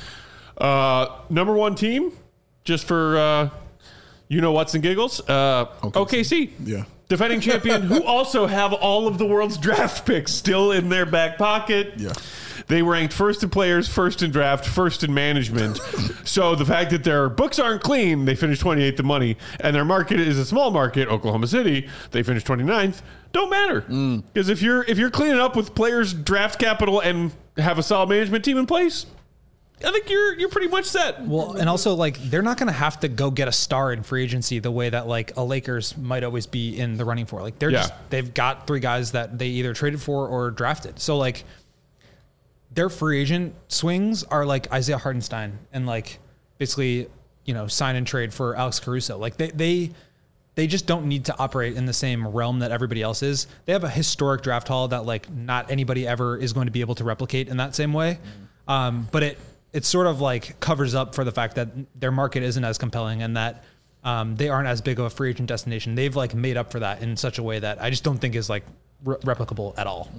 Number one team, just for what's and giggles, OKC. Yeah. Defending champion, who also have all of the world's draft picks still in their back pocket. Yeah. They ranked first in players, first in draft, first in management. So the fact that their books aren't clean, they finished 28th in money, and their market is a small market, Oklahoma City, they finished 29th, don't matter. Because if you're cleaning up with players, draft capital, and have a solid management team in place, I think you're pretty much set. Well, and also, like, they're not going to have to go get a star in free agency the way that, like, a Lakers might always be in the running for. Like, they've got 3 guys that they either traded for or drafted. So, like, their free agent swings are like Isaiah Hartenstein and, like, basically, sign and trade for Alex Caruso. Like, they just don't need to operate in the same realm that everybody else is. They have a historic draft haul that, like, not anybody ever is going to be able to replicate in that same way. But it sort of, like, covers up for the fact that their market isn't as compelling and that they aren't as big of a free agent destination. They've, like, made up for that in such a way that I just don't think is, like, replicable at all.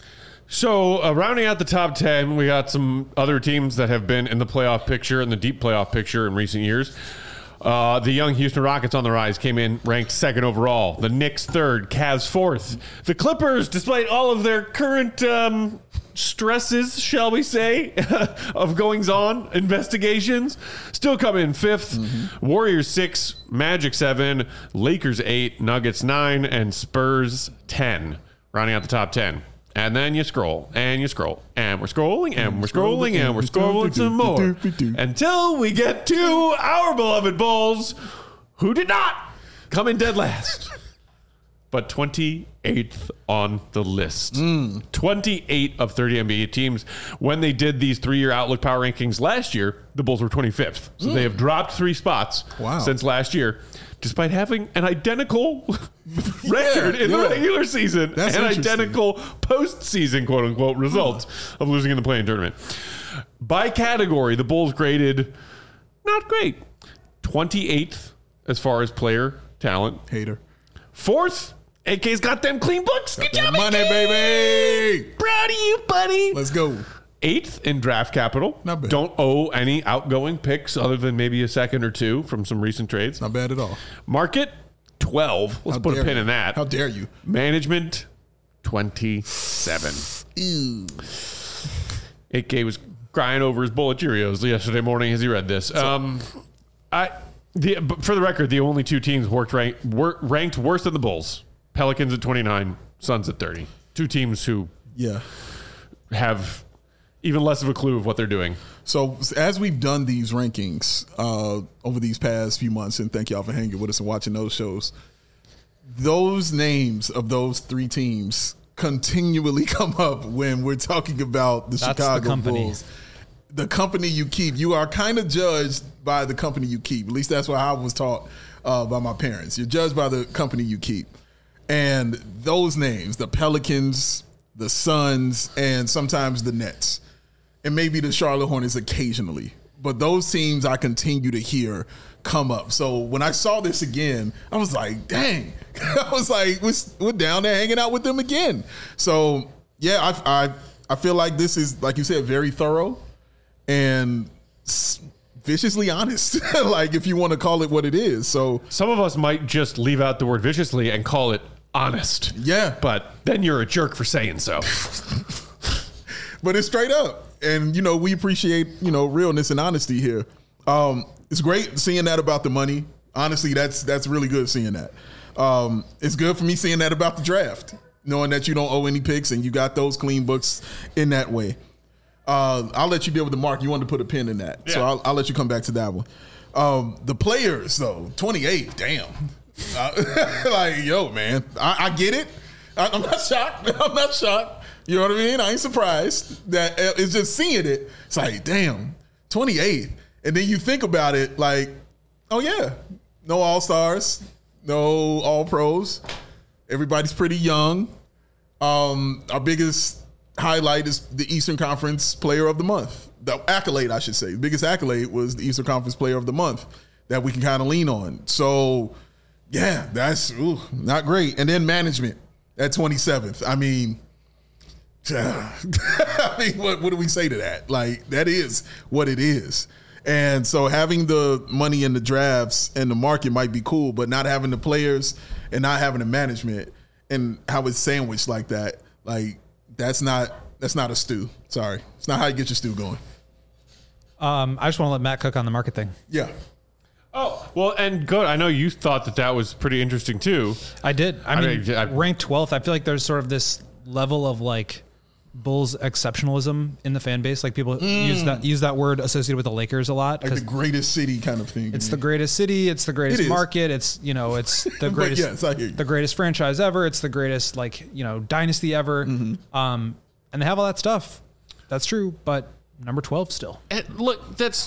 So rounding out the top 10, we got some other teams that have been in the playoff picture, in the deep playoff picture in recent years. The young Houston Rockets on the rise came in ranked 2nd overall. The Knicks 3rd, Cavs 4th. The Clippers, despite all of their current stresses, shall we say, of goings-on, investigations, still come in 5th. Warriors 6, Magic 7, Lakers 8, Nuggets 9, and Spurs 10, rounding out the top 10. And then you scroll, and you scroll, and we're scrolling, and we're scrolling, and we're scrolling some more until we get to our beloved Bulls, who did not come in dead last, but 28th on the list. 28 of 30 NBA teams. When they did these 3-year Outlook Power Rankings last year, the Bulls were 25th. So they have dropped 3 spots since last year, despite having an identical record in the regular season and identical postseason, quote unquote, results of losing in the play-in tournament. By category, the Bulls graded not great. 28th as far as player talent. Hater. 4th, AK's got them clean books. Good job, money, baby. Proud of you, buddy. Let's go. 8th in draft capital. Not bad. Don't owe any outgoing picks other than maybe a second or two from some recent trades. Not bad at all. Market, 12. Let's put a pin in that. How dare you? Management, 27. Ew. AK was crying over his bowl of Cheerios yesterday morning as he read this. But for the record, the only 2 teams ranked worse than the Bulls. Pelicans at 29, Suns at 30. 2 teams who have even less of a clue of what they're doing. So as we've done these rankings over these past few months, and thank y'all for hanging with us and watching those shows, those names of those 3 teams continually come up when we're talking about the Chicago Bulls. The company you keep. You are kind of judged by the company you keep. At least that's what I was taught by my parents. You're judged by the company you keep. And those names, the Pelicans, the Suns, and sometimes the Nets, and maybe the Charlotte Hornets occasionally. But those teams I continue to hear come up. So when I saw this again, I was like, dang. I was like, we're down there hanging out with them again. So, yeah, I feel like this is, like you said, very thorough and viciously honest, like if you want to call it what it is. So some of us might just leave out the word viciously and call it honest. Yeah. But then you're a jerk for saying so. But it's straight up. And, we appreciate, realness and honesty here. It's great seeing that about the money. Honestly, that's really good seeing that. It's good for me seeing that about the draft, knowing that you don't owe any picks and you got those clean books in that way. I'll let you deal with the mark. You wanted to put a pin in that. Yeah. So I'll let you come back to that one. The players, though, 28, damn. Like, yo, man, I get it. I'm not shocked. You know what I mean? I ain't surprised that it's just seeing it. It's like, damn, 28th. And then you think about it like, oh yeah, no All-Stars, no All-Pros. Everybody's pretty young. Our biggest highlight is the Eastern Conference Player of the Month. The accolade, I should say. The biggest accolade was the Eastern Conference Player of the Month that we can kind of lean on. So, yeah, that's not great. And then management at 27th. I mean, what do we say to that? Like, that is what it is. And so having the money in the drafts and the market might be cool, but not having the players and not having the management and how it's sandwiched like that, like that's not a stew. Sorry. It's not how you get your stew going. I just want to let Matt cook on the market thing. Yeah. Oh, well, and good. I know you thought that was pretty interesting too. I did. I mean, ranked 12th. I feel like there's sort of this level of like Bulls exceptionalism in the fan base. Like people use that word associated with the Lakers a lot. Like the greatest city kind of thing. It's the greatest city. It's the greatest market. It's, it's the greatest, yes, I hear you. the greatest franchise ever. It's the greatest dynasty ever. And they have all that stuff. That's true. But number 12 still. And look,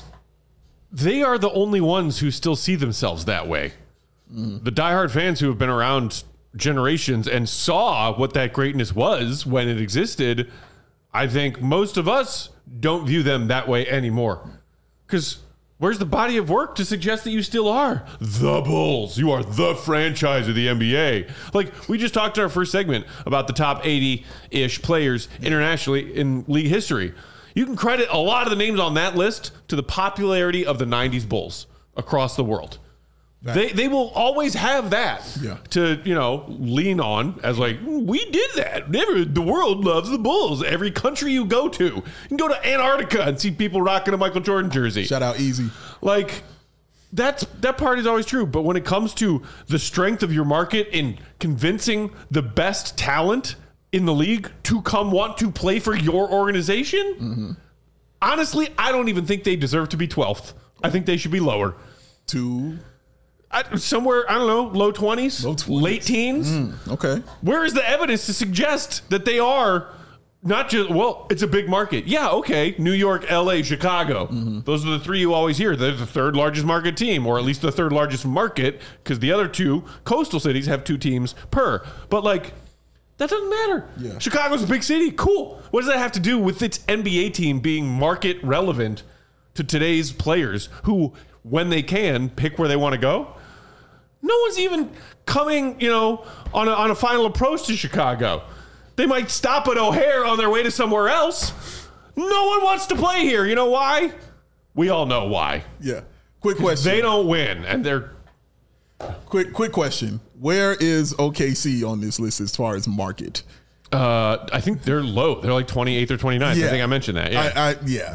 they are the only ones who still see themselves that way. The diehard fans who have been around generations and saw what that greatness was when it existed, I think most of us don't view them that way anymore. Because where's the body of work to suggest that you still are the Bulls? You are the franchise of the NBA. Like, we just talked in our first segment about the top 80-ish players internationally in league history. You can credit a lot of the names on that list to the popularity of the 90s Bulls across the world. They will always have that to, lean on as like, we did that. The world loves the Bulls. Every country you go to. You can go to Antarctica and see people rocking a Michael Jordan jersey. Shout out Easy. Like, that part is always true. But when it comes to the strength of your market in convincing the best talent in the league to come want to play for your organization, honestly, I don't even think they deserve to be 12th. I think they should be lower. Somewhere, I don't know, low 20s, late teens. Okay. Where is the evidence to suggest that they are not just, it's a big market. Yeah, okay. New York, LA, Chicago. Those are the three you always hear. They're the third largest market team, or at least the third largest market, because the other two coastal cities have 2 teams per. But, that doesn't matter. Yeah. Chicago's a big city. Cool. What does that have to do with its NBA team being market relevant to today's players who, when they can, pick where they want to go? No one's even coming, on a final approach to Chicago. They might stop at O'Hare on their way to somewhere else. No one wants to play here. You know why? We all know why. Yeah. Quick question. They don't win, and they're... Quick question. Where is OKC on this list as far as market? I think they're low. They're like 28th or 29th. Yeah. I think I mentioned that. Yeah.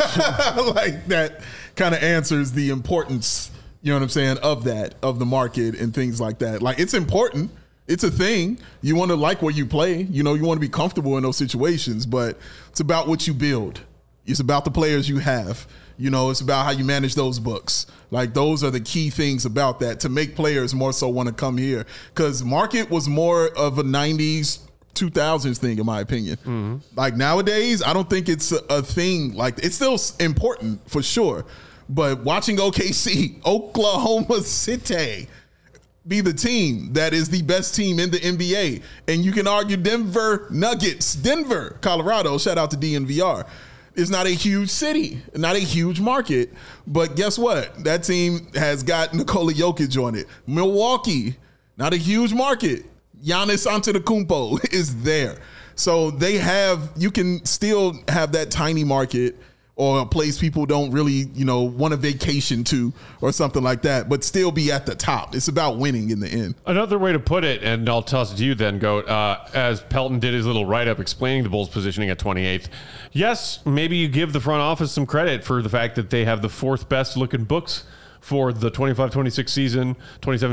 Like, that kind of answers the importance, you know what I'm saying, of the market and things like that. Like, it's important. It's a thing. You want to like where you play. You want to be comfortable in those situations, but it's about what you build. It's about the players you have. It's about how you manage those books. Like, those are the key things about that to make players more so want to come here. Because market was more of a 90s, 2000s thing, in my opinion. Like, nowadays, I don't think it's a thing. Like, it's still important for sure. But watching OKC, Oklahoma City, be the team that is the best team in the NBA. And you can argue Denver Nuggets, Denver, Colorado, shout out to DNVR. It's not a huge city, not a huge market, but guess what? That team has got Nikola Jokic on it. Milwaukee, not a huge market. Giannis Antetokounmpo is there. So you can still have that tiny market or a place people don't really, want to vacation to or something like that, but still be at the top. It's about winning in the end. Another way to put it, and I'll toss it to you then, Goat, as Pelton did his little write-up explaining the Bulls' positioning at 28th, yes, maybe you give the front office some credit for the fact that they have the 4th best-looking books for the 25-26 season, 26-27,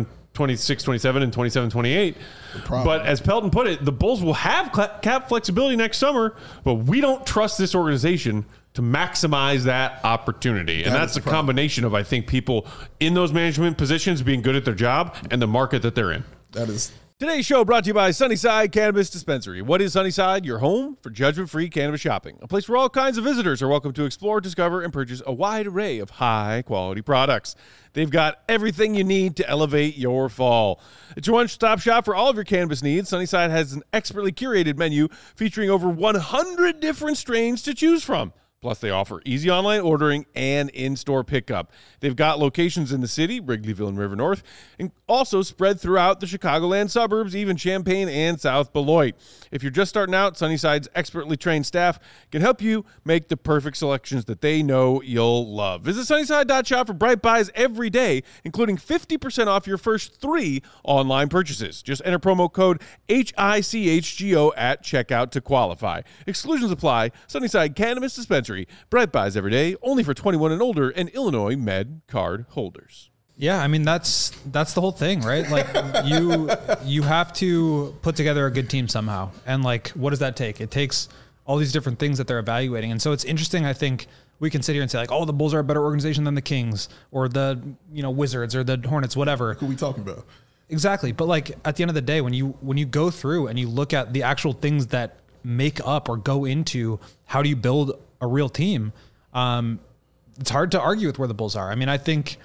and 27-28. But as Pelton put it, the Bulls will have cap flexibility next summer, but we don't trust this organization to maximize that opportunity. And that's a combination of, I think, people in those management positions being good at their job and the market that they're in. That is Today's show brought to you by Sunnyside Cannabis Dispensary. What is Sunnyside? Your home for judgment-free cannabis shopping. A place where all kinds of visitors are welcome to explore, discover, and purchase a wide array of high-quality products. They've got everything you need to elevate your fall. It's your one-stop shop for all of your cannabis needs. Sunnyside has an expertly curated menu featuring over 100 different strains to choose from. Plus, they offer easy online ordering and in-store pickup. They've got locations in the city, Wrigleyville and River North, and also spread throughout the Chicagoland suburbs, even Champaign and South Beloit. If you're just starting out, Sunnyside's expertly trained staff can help you make the perfect selections that they know you'll love. Visit Sunnyside.shop for Bright Buys every day, including 50% off your first 3 online purchases. Just enter promo code HICHGO at checkout to qualify. Exclusions apply. Sunnyside Cannabis Dispensary. Bright Buys every day, only for 21 and older and Illinois Med card holders. Yeah, I mean that's the whole thing, right? Like you have to put together a good team somehow. And like what does that take? It takes all these different things that they're evaluating. And so it's interesting, I think we can sit here and say like, oh, the Bulls are a better organization than the Kings or the, Wizards or the Hornets, whatever. Who are we talking about? Exactly. But like at the end of the day, when you go through and you look at the actual things that make up or go into how do you build a real team, it's hard to argue with where the Bulls are. I mean, I think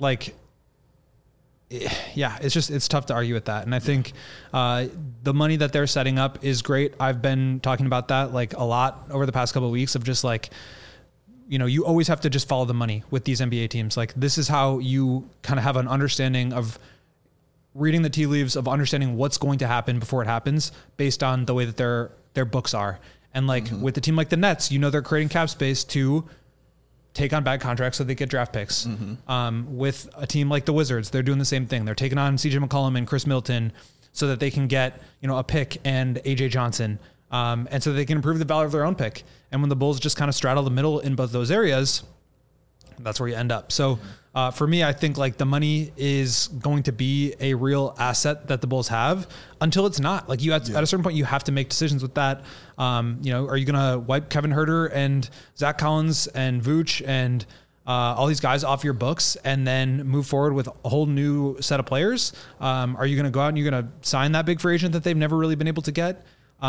it's tough to argue with that. And I think the money that they're setting up is great. I've been talking about that like a lot over the past couple of weeks of just like, you always have to just follow the money with these NBA teams. Like this is how you kind of have an understanding of reading the tea leaves, of understanding what's going to happen before it happens based on the way that their books are. And like with a team like the Nets, they're creating cap space to take on bad contracts so they get draft picks. With a team like the Wizards, they're doing the same thing. They're taking on CJ McCollum and Chris Middleton so that they can get, a pick and AJ Johnson. And so they can improve the value of their own pick. And when the Bulls just kind of straddle the middle in both those areas, that's where you end up. So for me, I think like the money is going to be a real asset that the Bulls have until it's not. Like at a certain point, you have to make decisions with that. Are you going to wipe Kevin Huerter and Zach Collins and Vooch and all these guys off your books and then move forward with a whole new set of players? Are you going to go out and you're going to sign that big free agent that they've never really been able to get?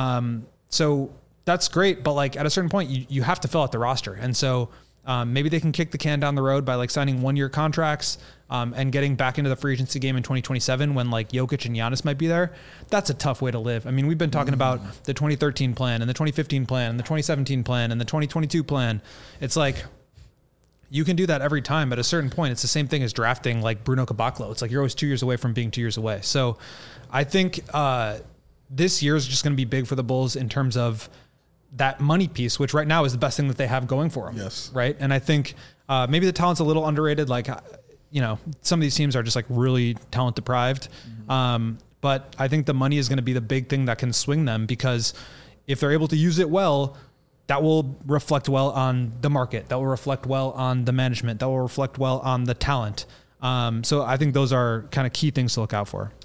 So that's great. But like at a certain point, you have to fill out the roster. And so maybe they can kick the can down the road by like signing 1-year contracts and getting back into the free agency game in 2027 when like Jokic and Giannis might be there. That's a tough way to live. I mean, we've been talking about the 2013 plan and the 2015 plan and the 2017 plan and the 2022 plan. It's like you can do that every time, but at a certain point, it's the same thing as drafting like Bruno Caboclo. It's like you're always 2 years away from being 2 years away. So I think this year is just going to be big for the Bulls in terms of that money piece, which right now is the best thing that they have going for them. Yes. Right. And I think maybe the talent's a little underrated. Like, some of these teams are just like really talent deprived. But I think the money is going to be the big thing that can swing them, because if they're able to use it well, that will reflect well on the market. That will reflect well on the management. That will reflect well on the talent. So I think those are kind of key things to look out for.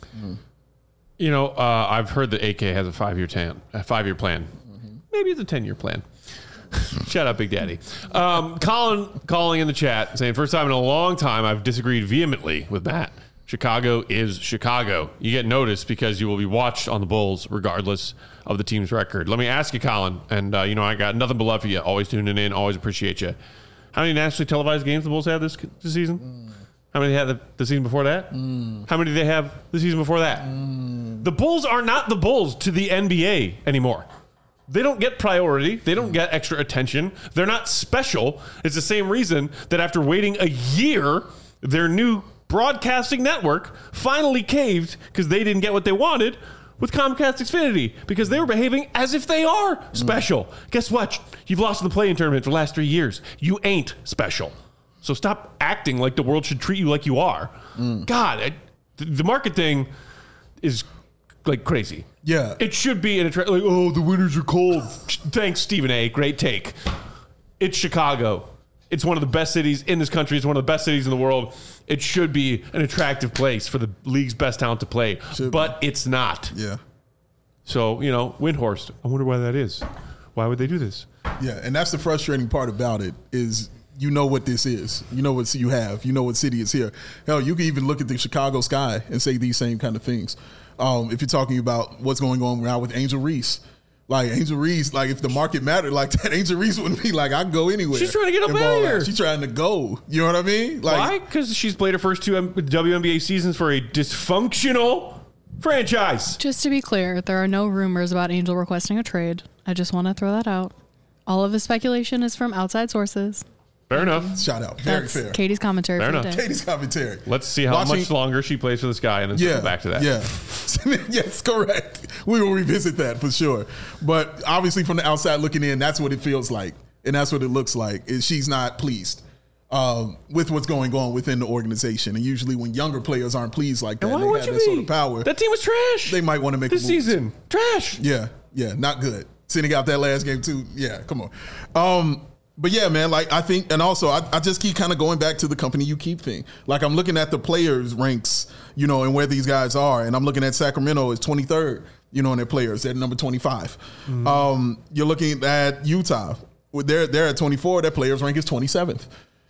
I've heard that AK has a 5-year plan. Maybe it's a 10-year plan. Shout out Big Daddy. Colin calling in the chat saying, first time in a long time I've disagreed vehemently with Matt. Chicago is Chicago. You get noticed because you will be watched on the Bulls regardless of the team's record. Let me ask you, Colin, and I got nothing but love for you. Always tuning in, always appreciate you. How many nationally televised games the Bulls have this season? How many they had the season before that? How many do they have the season before that? The Bulls are not the Bulls to the NBA anymore. They don't get priority. They don't get extra attention. They're not special. It's the same reason that after waiting a year, their new broadcasting network finally caved because they didn't get what they wanted with Comcast Xfinity, because they were behaving as if they are special. Guess what? You've lost in the play-in tournament for the last 3 years. You ain't special. So stop acting like the world should treat you like you are. God, the market thing is like crazy. Yeah. It should be like, the winters are cold. Thanks, Stephen A. Great take. It's Chicago. It's one of the best cities in this country. It's one of the best cities in the world. It should be an attractive place for the league's best talent to play. But it's not. Yeah. So, Windhorst, I wonder why that is. Why would they do this? Yeah, and that's the frustrating part about it is what this is. You know what you have. You know what city is here. Hell, you can even look at the Chicago sky and say these same kind of things. If you're talking about what's going on now with Angel Reese. Like Angel Reese, like if the market mattered like that, Angel Reese wouldn't be like, I'd go anywhere. She's trying to get up out of here. She's trying to go. You know what I mean? Like, why? Because she's played her first 2 WNBA seasons for a dysfunctional franchise. Just to be clear, there are no rumors about Angel requesting a trade. I just want to throw that out. All of the speculation is from outside sources. Fair enough. Shout out. Very That's fair. Katie's commentary Fair for the enough. day. Katie's commentary. Let's see how much longer she plays for the Sky and then circle back to that. Yeah. Yes, correct. We will revisit that for sure. But obviously from the outside looking in, that's what it feels like. And that's what it looks like. Is she's not pleased with what's going on within the organization. And usually when younger players aren't pleased like that, And why they would have you that be? sort of power. That team was trash. They might want to make this a move. season. Trash. Yeah, not good. Sitting out that last game too. Yeah, come on. But yeah, man, like I think, and also I just keep kind of going back to the company you keep thing. Like I'm looking at the players ranks, you know, and where these guys are, and I'm looking at Sacramento as 23rd, you know, in their players at number 25. You're looking at Utah, they're at 24. Their players rank is 27th.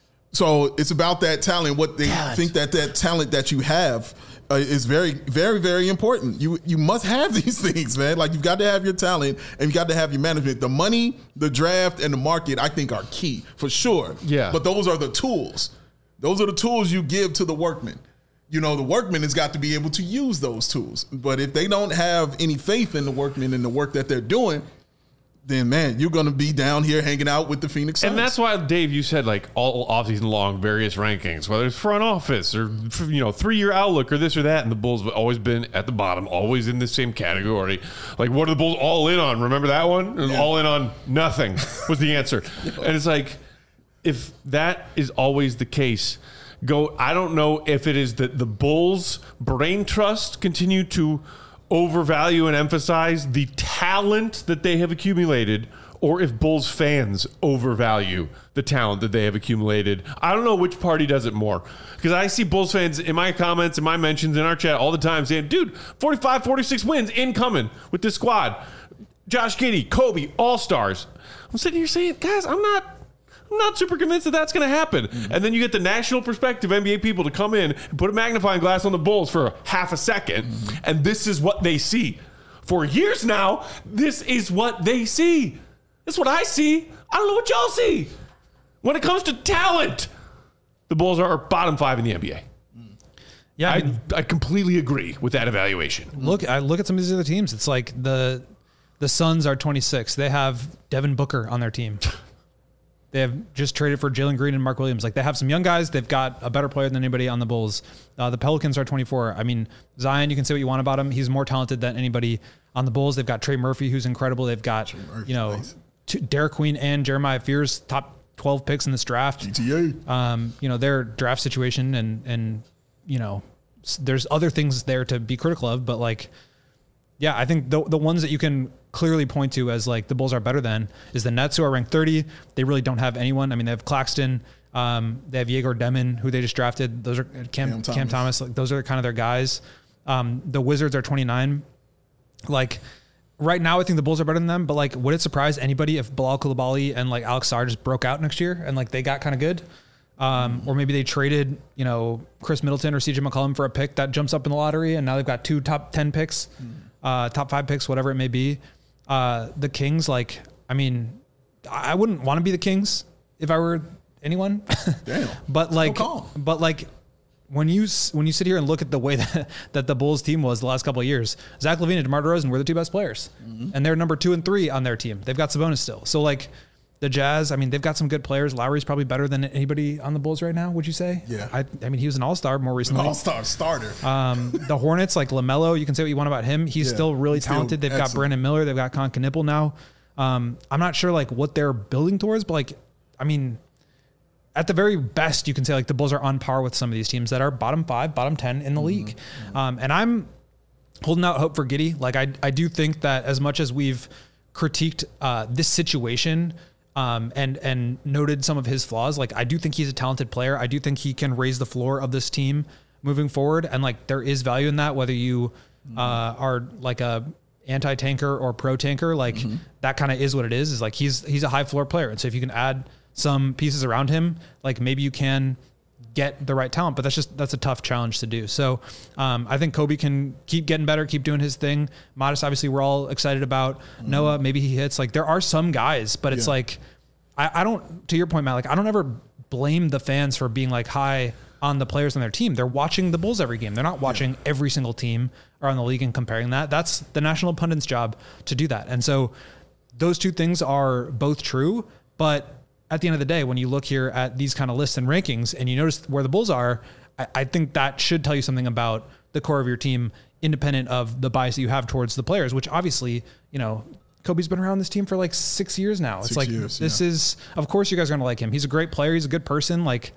So it's about that talent. What they think that talent that you have is very, very, very important. You must have these things, man. Like you've got to have your talent and you got to have your management. The money, the draft, and the market, I think, are key for sure. Yeah. But those are the tools. Those are the tools you give to the workman. You know, the workman has got to be able to use those tools. But if they don't have any faith in the workmen and the work that they're doing, then man, you're going to be down here hanging out with the Phoenix Suns. And that's why, Dave, you said like all offseason long, various rankings, whether it's front office or, 3-year outlook or this or that. And the Bulls have always been at the bottom, always in the same category. Like, what are the Bulls all in on? Remember that one? Yeah. All in on nothing was the answer. And it's like, if that is always the case, I don't know if it is that the Bulls' brain trust continue to overvalue and emphasize the talent that they have accumulated, or if Bulls fans overvalue the talent that they have accumulated. I don't know which party does it more, because I see Bulls fans in my comments, in my mentions, in our chat all the time saying, dude, 45, 46 wins incoming with this squad. Josh Giddey, Kobe, all-stars. I'm sitting here saying, guys, I'm not super convinced that that's going to happen. Mm-hmm. And then you get the national perspective NBA people to come in and put a magnifying glass on the Bulls for half a second. Mm-hmm. And this is what they see. For years now, this is what they see. This is what I see. I don't know what y'all see. When it comes to talent, the Bulls are bottom 5 in the NBA. Yeah, I completely agree with that evaluation. I look at some of these other teams. It's like the Suns are 26. They have Devin Booker on their team. They have just traded for Jalen Green and Mark Williams. Like, they have some young guys. They've got a better player than anybody on the Bulls. The Pelicans are 24. I mean, Zion, you can say what you want about him. He's more talented than anybody on the Bulls. They've got Trey Murphy, who's incredible. They've got, nice. Derek Queen and Jeremiah Fears, top 12 picks in this draft. GTA. Their draft situation and there's other things there to be critical of, but like, yeah, I think the ones that you can clearly point to as like the Bulls are better than is the Nets, who are ranked 30. They really don't have anyone. I mean, they have Claxton, they have Yegor Demon, who they just drafted. Those are Cam Thomas. Like, those are kind of their guys. The Wizards are 29. Like, right now, I think the Bulls are better than them, but like, would it surprise anybody if Bilal Coulibaly and like Alex Sarr just broke out next year and like they got kind of good? Or maybe they traded, Chris Middleton or CJ McCollum for a pick that jumps up in the lottery, and now they've got 2 top 10 picks, top 5 picks, whatever it may be. The Kings, like, I mean, I wouldn't want to be the Kings if I were anyone. Damn. But like, when you sit here and look at the way that the Bulls team was the last couple of years, Zach LaVine and DeMar DeRozan were the 2 best players, and they're number 2 and 3 on their team. They've got Sabonis still. So like, the Jazz, I mean, they've got some good players. Lowry's probably better than anybody on the Bulls right now, would you say? Yeah. I mean, he was an all-star more recently. All-star starter. The Hornets, like LaMelo, you can say what you want about him. He's still really talented. They've got Brandon Miller. They've got Con Knipple now. I'm not sure like what they're building towards, but like, I mean, at the very best, you can say like the Bulls are on par with some of these teams that are bottom 5, bottom 10 in the league. And I'm holding out hope for Giddey. Like, I do think that as much as we've critiqued this situation, and noted some of his flaws, like, I do think he's a talented player. I do think he can raise the floor of this team moving forward. And like, there is value in that, whether you are like a anti-tanker or pro-tanker, like that kind of is what it is like, he's a high floor player. And so if you can add some pieces around him, like maybe you can get the right talent, but that's a tough challenge to do. So I think Kobe can keep getting better, keep doing his thing. Modest, obviously, we're all excited about. Noah, maybe he hits. Like, there are some guys, but it's like, I don't, to your point, Matt, like, I don't ever blame the fans for being like high on the players on their team. They're watching the Bulls every game. They're not watching every single team around the league and comparing that. That's the national pundit's job to do that. And so those two things are both true, but at the end of the day, when you look here at these kind of lists and rankings and you notice where the Bulls are, I think that should tell you something about the core of your team, independent of the bias that you have towards the players, which obviously, you know, Kobe's been around this team for like 6 years now. It's like, this is, of course you guys are going to like him. He's a great player. He's a good person. Like,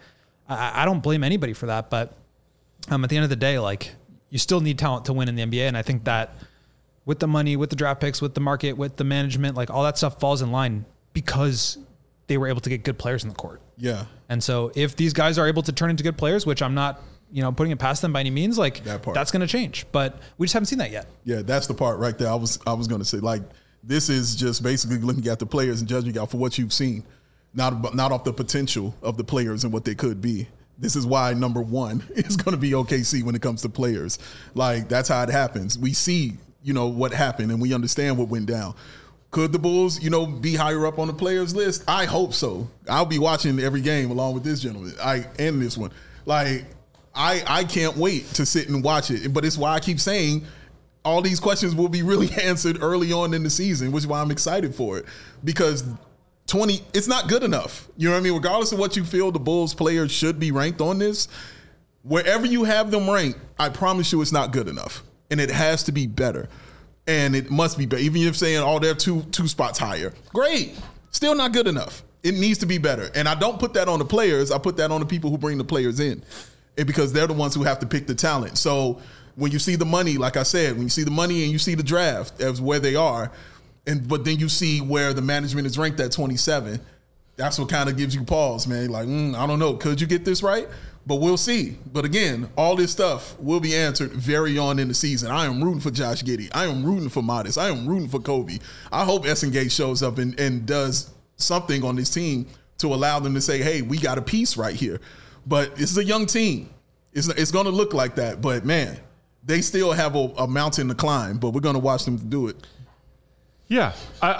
I don't blame anybody for that, but at the end of the day, like, you still need talent to win in the NBA. And I think that with the money, with the draft picks, with the market, with the management, like, all that stuff falls in line because they were able to get good players in the court. Yeah. And so if these guys are able to turn into good players, which I'm not, you know, putting it past them by any means, like, that's going to change, but we just haven't seen that yet. Yeah. That's the part right there. I was going to say, like, this is just basically looking at the players and judging out for what you've seen, not off the potential of the players and what they could be. This is why number one is going to be OKC when it comes to players. Like, that's how it happens. We see, you know, what happened and we understand what went down. Could the Bulls, you know, be higher up on the players list? I hope so. I'll be watching every game along with this gentleman. And this one. Like, I can't wait to sit and watch it. But it's why I keep saying all these questions will be really answered early on in the season, which is why I'm excited for it. Because it's not good enough. You know what I mean? Regardless of what you feel the Bulls players should be ranked on this, wherever you have them ranked, I promise you it's not good enough. And it has to be better. And it must be better. Even if you're saying, oh, they're two spots higher. Great. Still not good enough. It needs to be better. And I don't put that on the players. I put that on the people who bring the players in. And because they're the ones who have to pick the talent. So when you see the money, like I said, when you see the money and you see the draft as where they are, but then you see where the management is ranked at 27, that's what kind of gives you pause, man. Like, I don't know. Could you get this right? But we'll see. But again, all this stuff will be answered very on in the season. I am rooting for Josh Giddey. I am rooting for Modest. I am rooting for Kobe. I hope Essengate shows up and does something on this team to allow them to say, hey, we got a piece right here. But this is a young team. It's going to look like that. But, man, they still have a mountain to climb. But we're going to watch them do it. Yeah,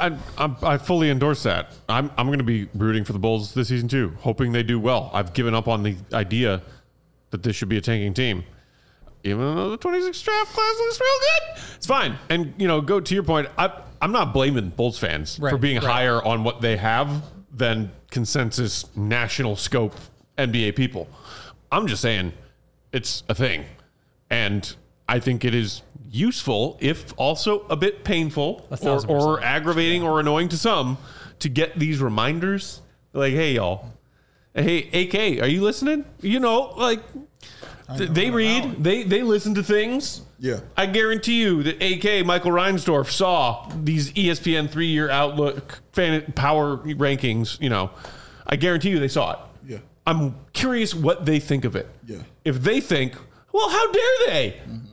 I fully endorse that. I'm going to be rooting for the Bulls this season too, hoping they do well. I've given up on the idea that this should be a tanking team, even though the 26th draft class looks real good. It's fine, and you know, go to your point. I'm not blaming Bulls fans for being higher on what they have than consensus national scope NBA people. I'm just saying it's a thing, and I think it is useful, if also a bit painful or aggravating or annoying to some, to get these reminders. Like, hey, y'all. Hey, AK, are you listening? You know, like, they read, they listen to things. Yeah. I guarantee you that AK, Michael Reinsdorf, saw these ESPN 3-year outlook power rankings, you know. I guarantee you they saw it. Yeah. I'm curious what they think of it. Yeah. If they think, well, how dare they? Mm-hmm.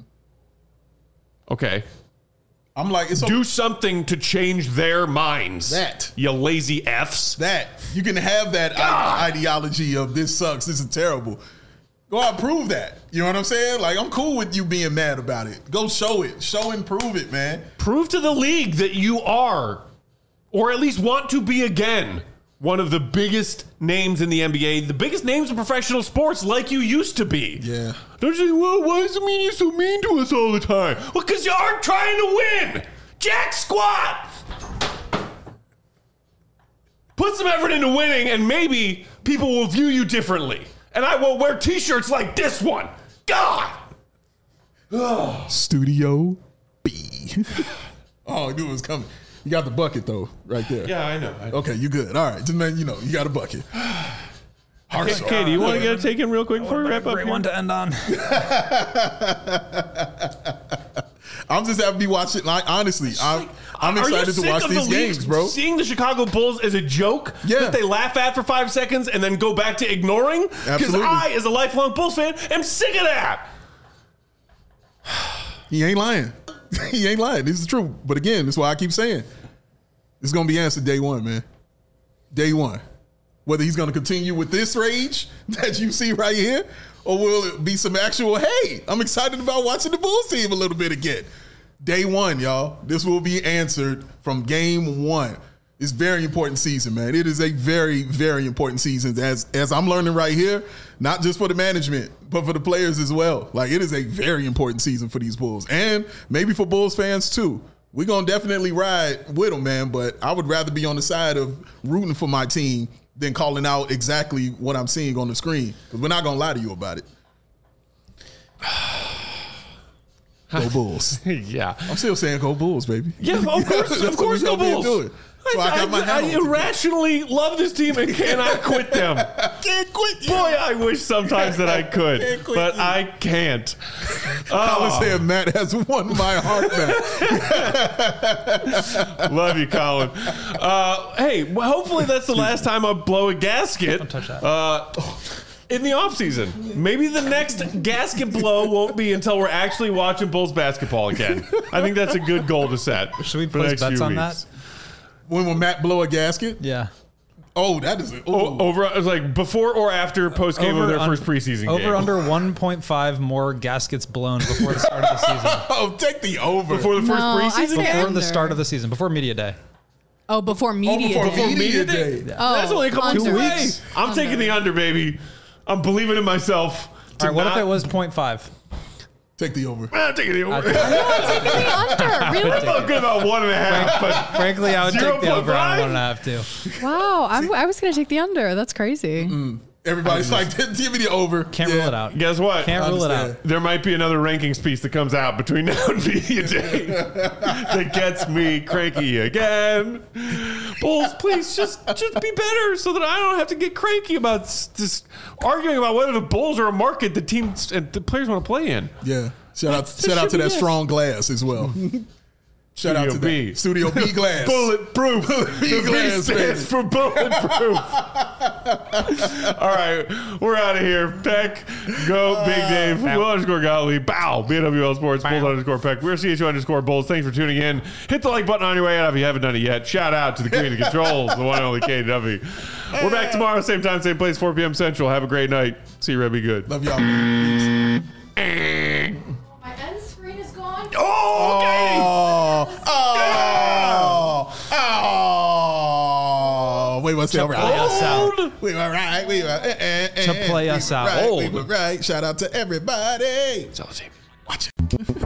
Okay. I'm like, do something to change their minds. That. You lazy Fs. That. You can have that ideology of this sucks, this is terrible. Go out and prove that. You know what I'm saying? Like, I'm cool with you being mad about it. Go show it. Show and prove it, man. Prove to the league that you are, or at least want to be again, one of the biggest names in the NBA, the biggest names in professional sports, like you used to be. Yeah. Don't you say, well, why does the media so mean to us all the time? Well, because you aren't trying to win. Jack squat. Put some effort into winning, and maybe people will view you differently. And I won't wear T-shirts like this one. God. Studio B. Oh, I knew it was coming. You got the bucket, though, right there. Yeah, I know. Okay, you good. All right. Just, man, you know, you got a bucket. Okay, do you want to get a take in real quick before we wrap up? Great one to end on. I'm just happy to be watching. Like, honestly, I'm excited to watch these games, bro. Seeing the Chicago Bulls as a joke that they laugh at for 5 seconds and then go back to ignoring? Because I, as a lifelong Bulls fan, am sick of that. He ain't lying. He ain't lying. This is true. But again, that's why I keep saying it's going to be answered day one, man. Day one. Whether he's going to continue with this rage that you see right here, or will it be some actual, hey, I'm excited about watching the Bulls team a little bit again. Day one, y'all. This will be answered from game one. It's a very important season, man. It is a very, very important season as I'm learning right here, not just for the management, but for the players as well. Like, it is a very important season for these Bulls and maybe for Bulls fans too. We're going to definitely ride with them, man, but I would rather be on the side of rooting for my team than calling out exactly what I'm seeing on the screen, because we're not going to lie to you about it. Go Bulls. Yeah. I'm still saying go Bulls, baby. Yeah, of course, go Bulls. So I irrationally love this team and cannot quit them. Can't quit you. Boy, I wish sometimes that I could, but I can't. Colin said Matt has won my heart back. Love you, Colin. Hey, well, hopefully that's the last time I blow a gasket. Don't touch that. In the offseason. Maybe the next gasket blow won't be until we're actually watching Bulls basketball again. I think that's a good goal to set. Should we for the place next bets few on weeks. that? When will Matt blow a gasket? Yeah. Oh, that is Over, it was like before or after post game of their first preseason game. Over under 1.5 more gaskets blown before the start of the season. Oh, take the over. Before the first No, I preseason say game? Before under. the start of the season, before media day. Oh, before media before day. media day. Oh, That's only a couple under. weeks away. I'm taking the under, baby. I'm believing in myself. All right, what if it was 0.5? Take the over. I'm taking the over. I'm taking the under. I Really? felt good about 1.5, but Frankly, I would take the over on 0.5? 1.5 too. Wow. I was going to take the under. That's crazy. Everybody's like, give me the over. Can't rule it out. guess what? Can't rule it out. Understand. There might be another rankings piece that comes out between now and media day that gets me cranky again. Bulls, please just be better so that I don't have to get cranky about this arguing about whether the Bulls are a market the teams and the players want to play in. Yeah. Shout out should to be that yes. strong glass as well. Shout out to Studio B. that. Studio B glass. Bulletproof. B The B glass, stands baby. for bulletproof. All right, we're out of here. Peck, go, Big Dave, Will _Gottlieb, bow, BWL Sports, Bulls _Peck. We're CHU _Bulls. Thanks for tuning in. Hit the like button on your way out if you haven't done it yet. Shout out to the Queen of Controls, the one and only KW. We're back tomorrow, same time, same place, 4 p.m. Central. Have a great night. See you, Red. Be good. Love y'all, man. Eh. My end screen is gone. Oh, okay. Wait, what's that? Play us out. We were right. We were To play us out. Right, we Old. were right. Shout out to everybody. So, see. Watch it.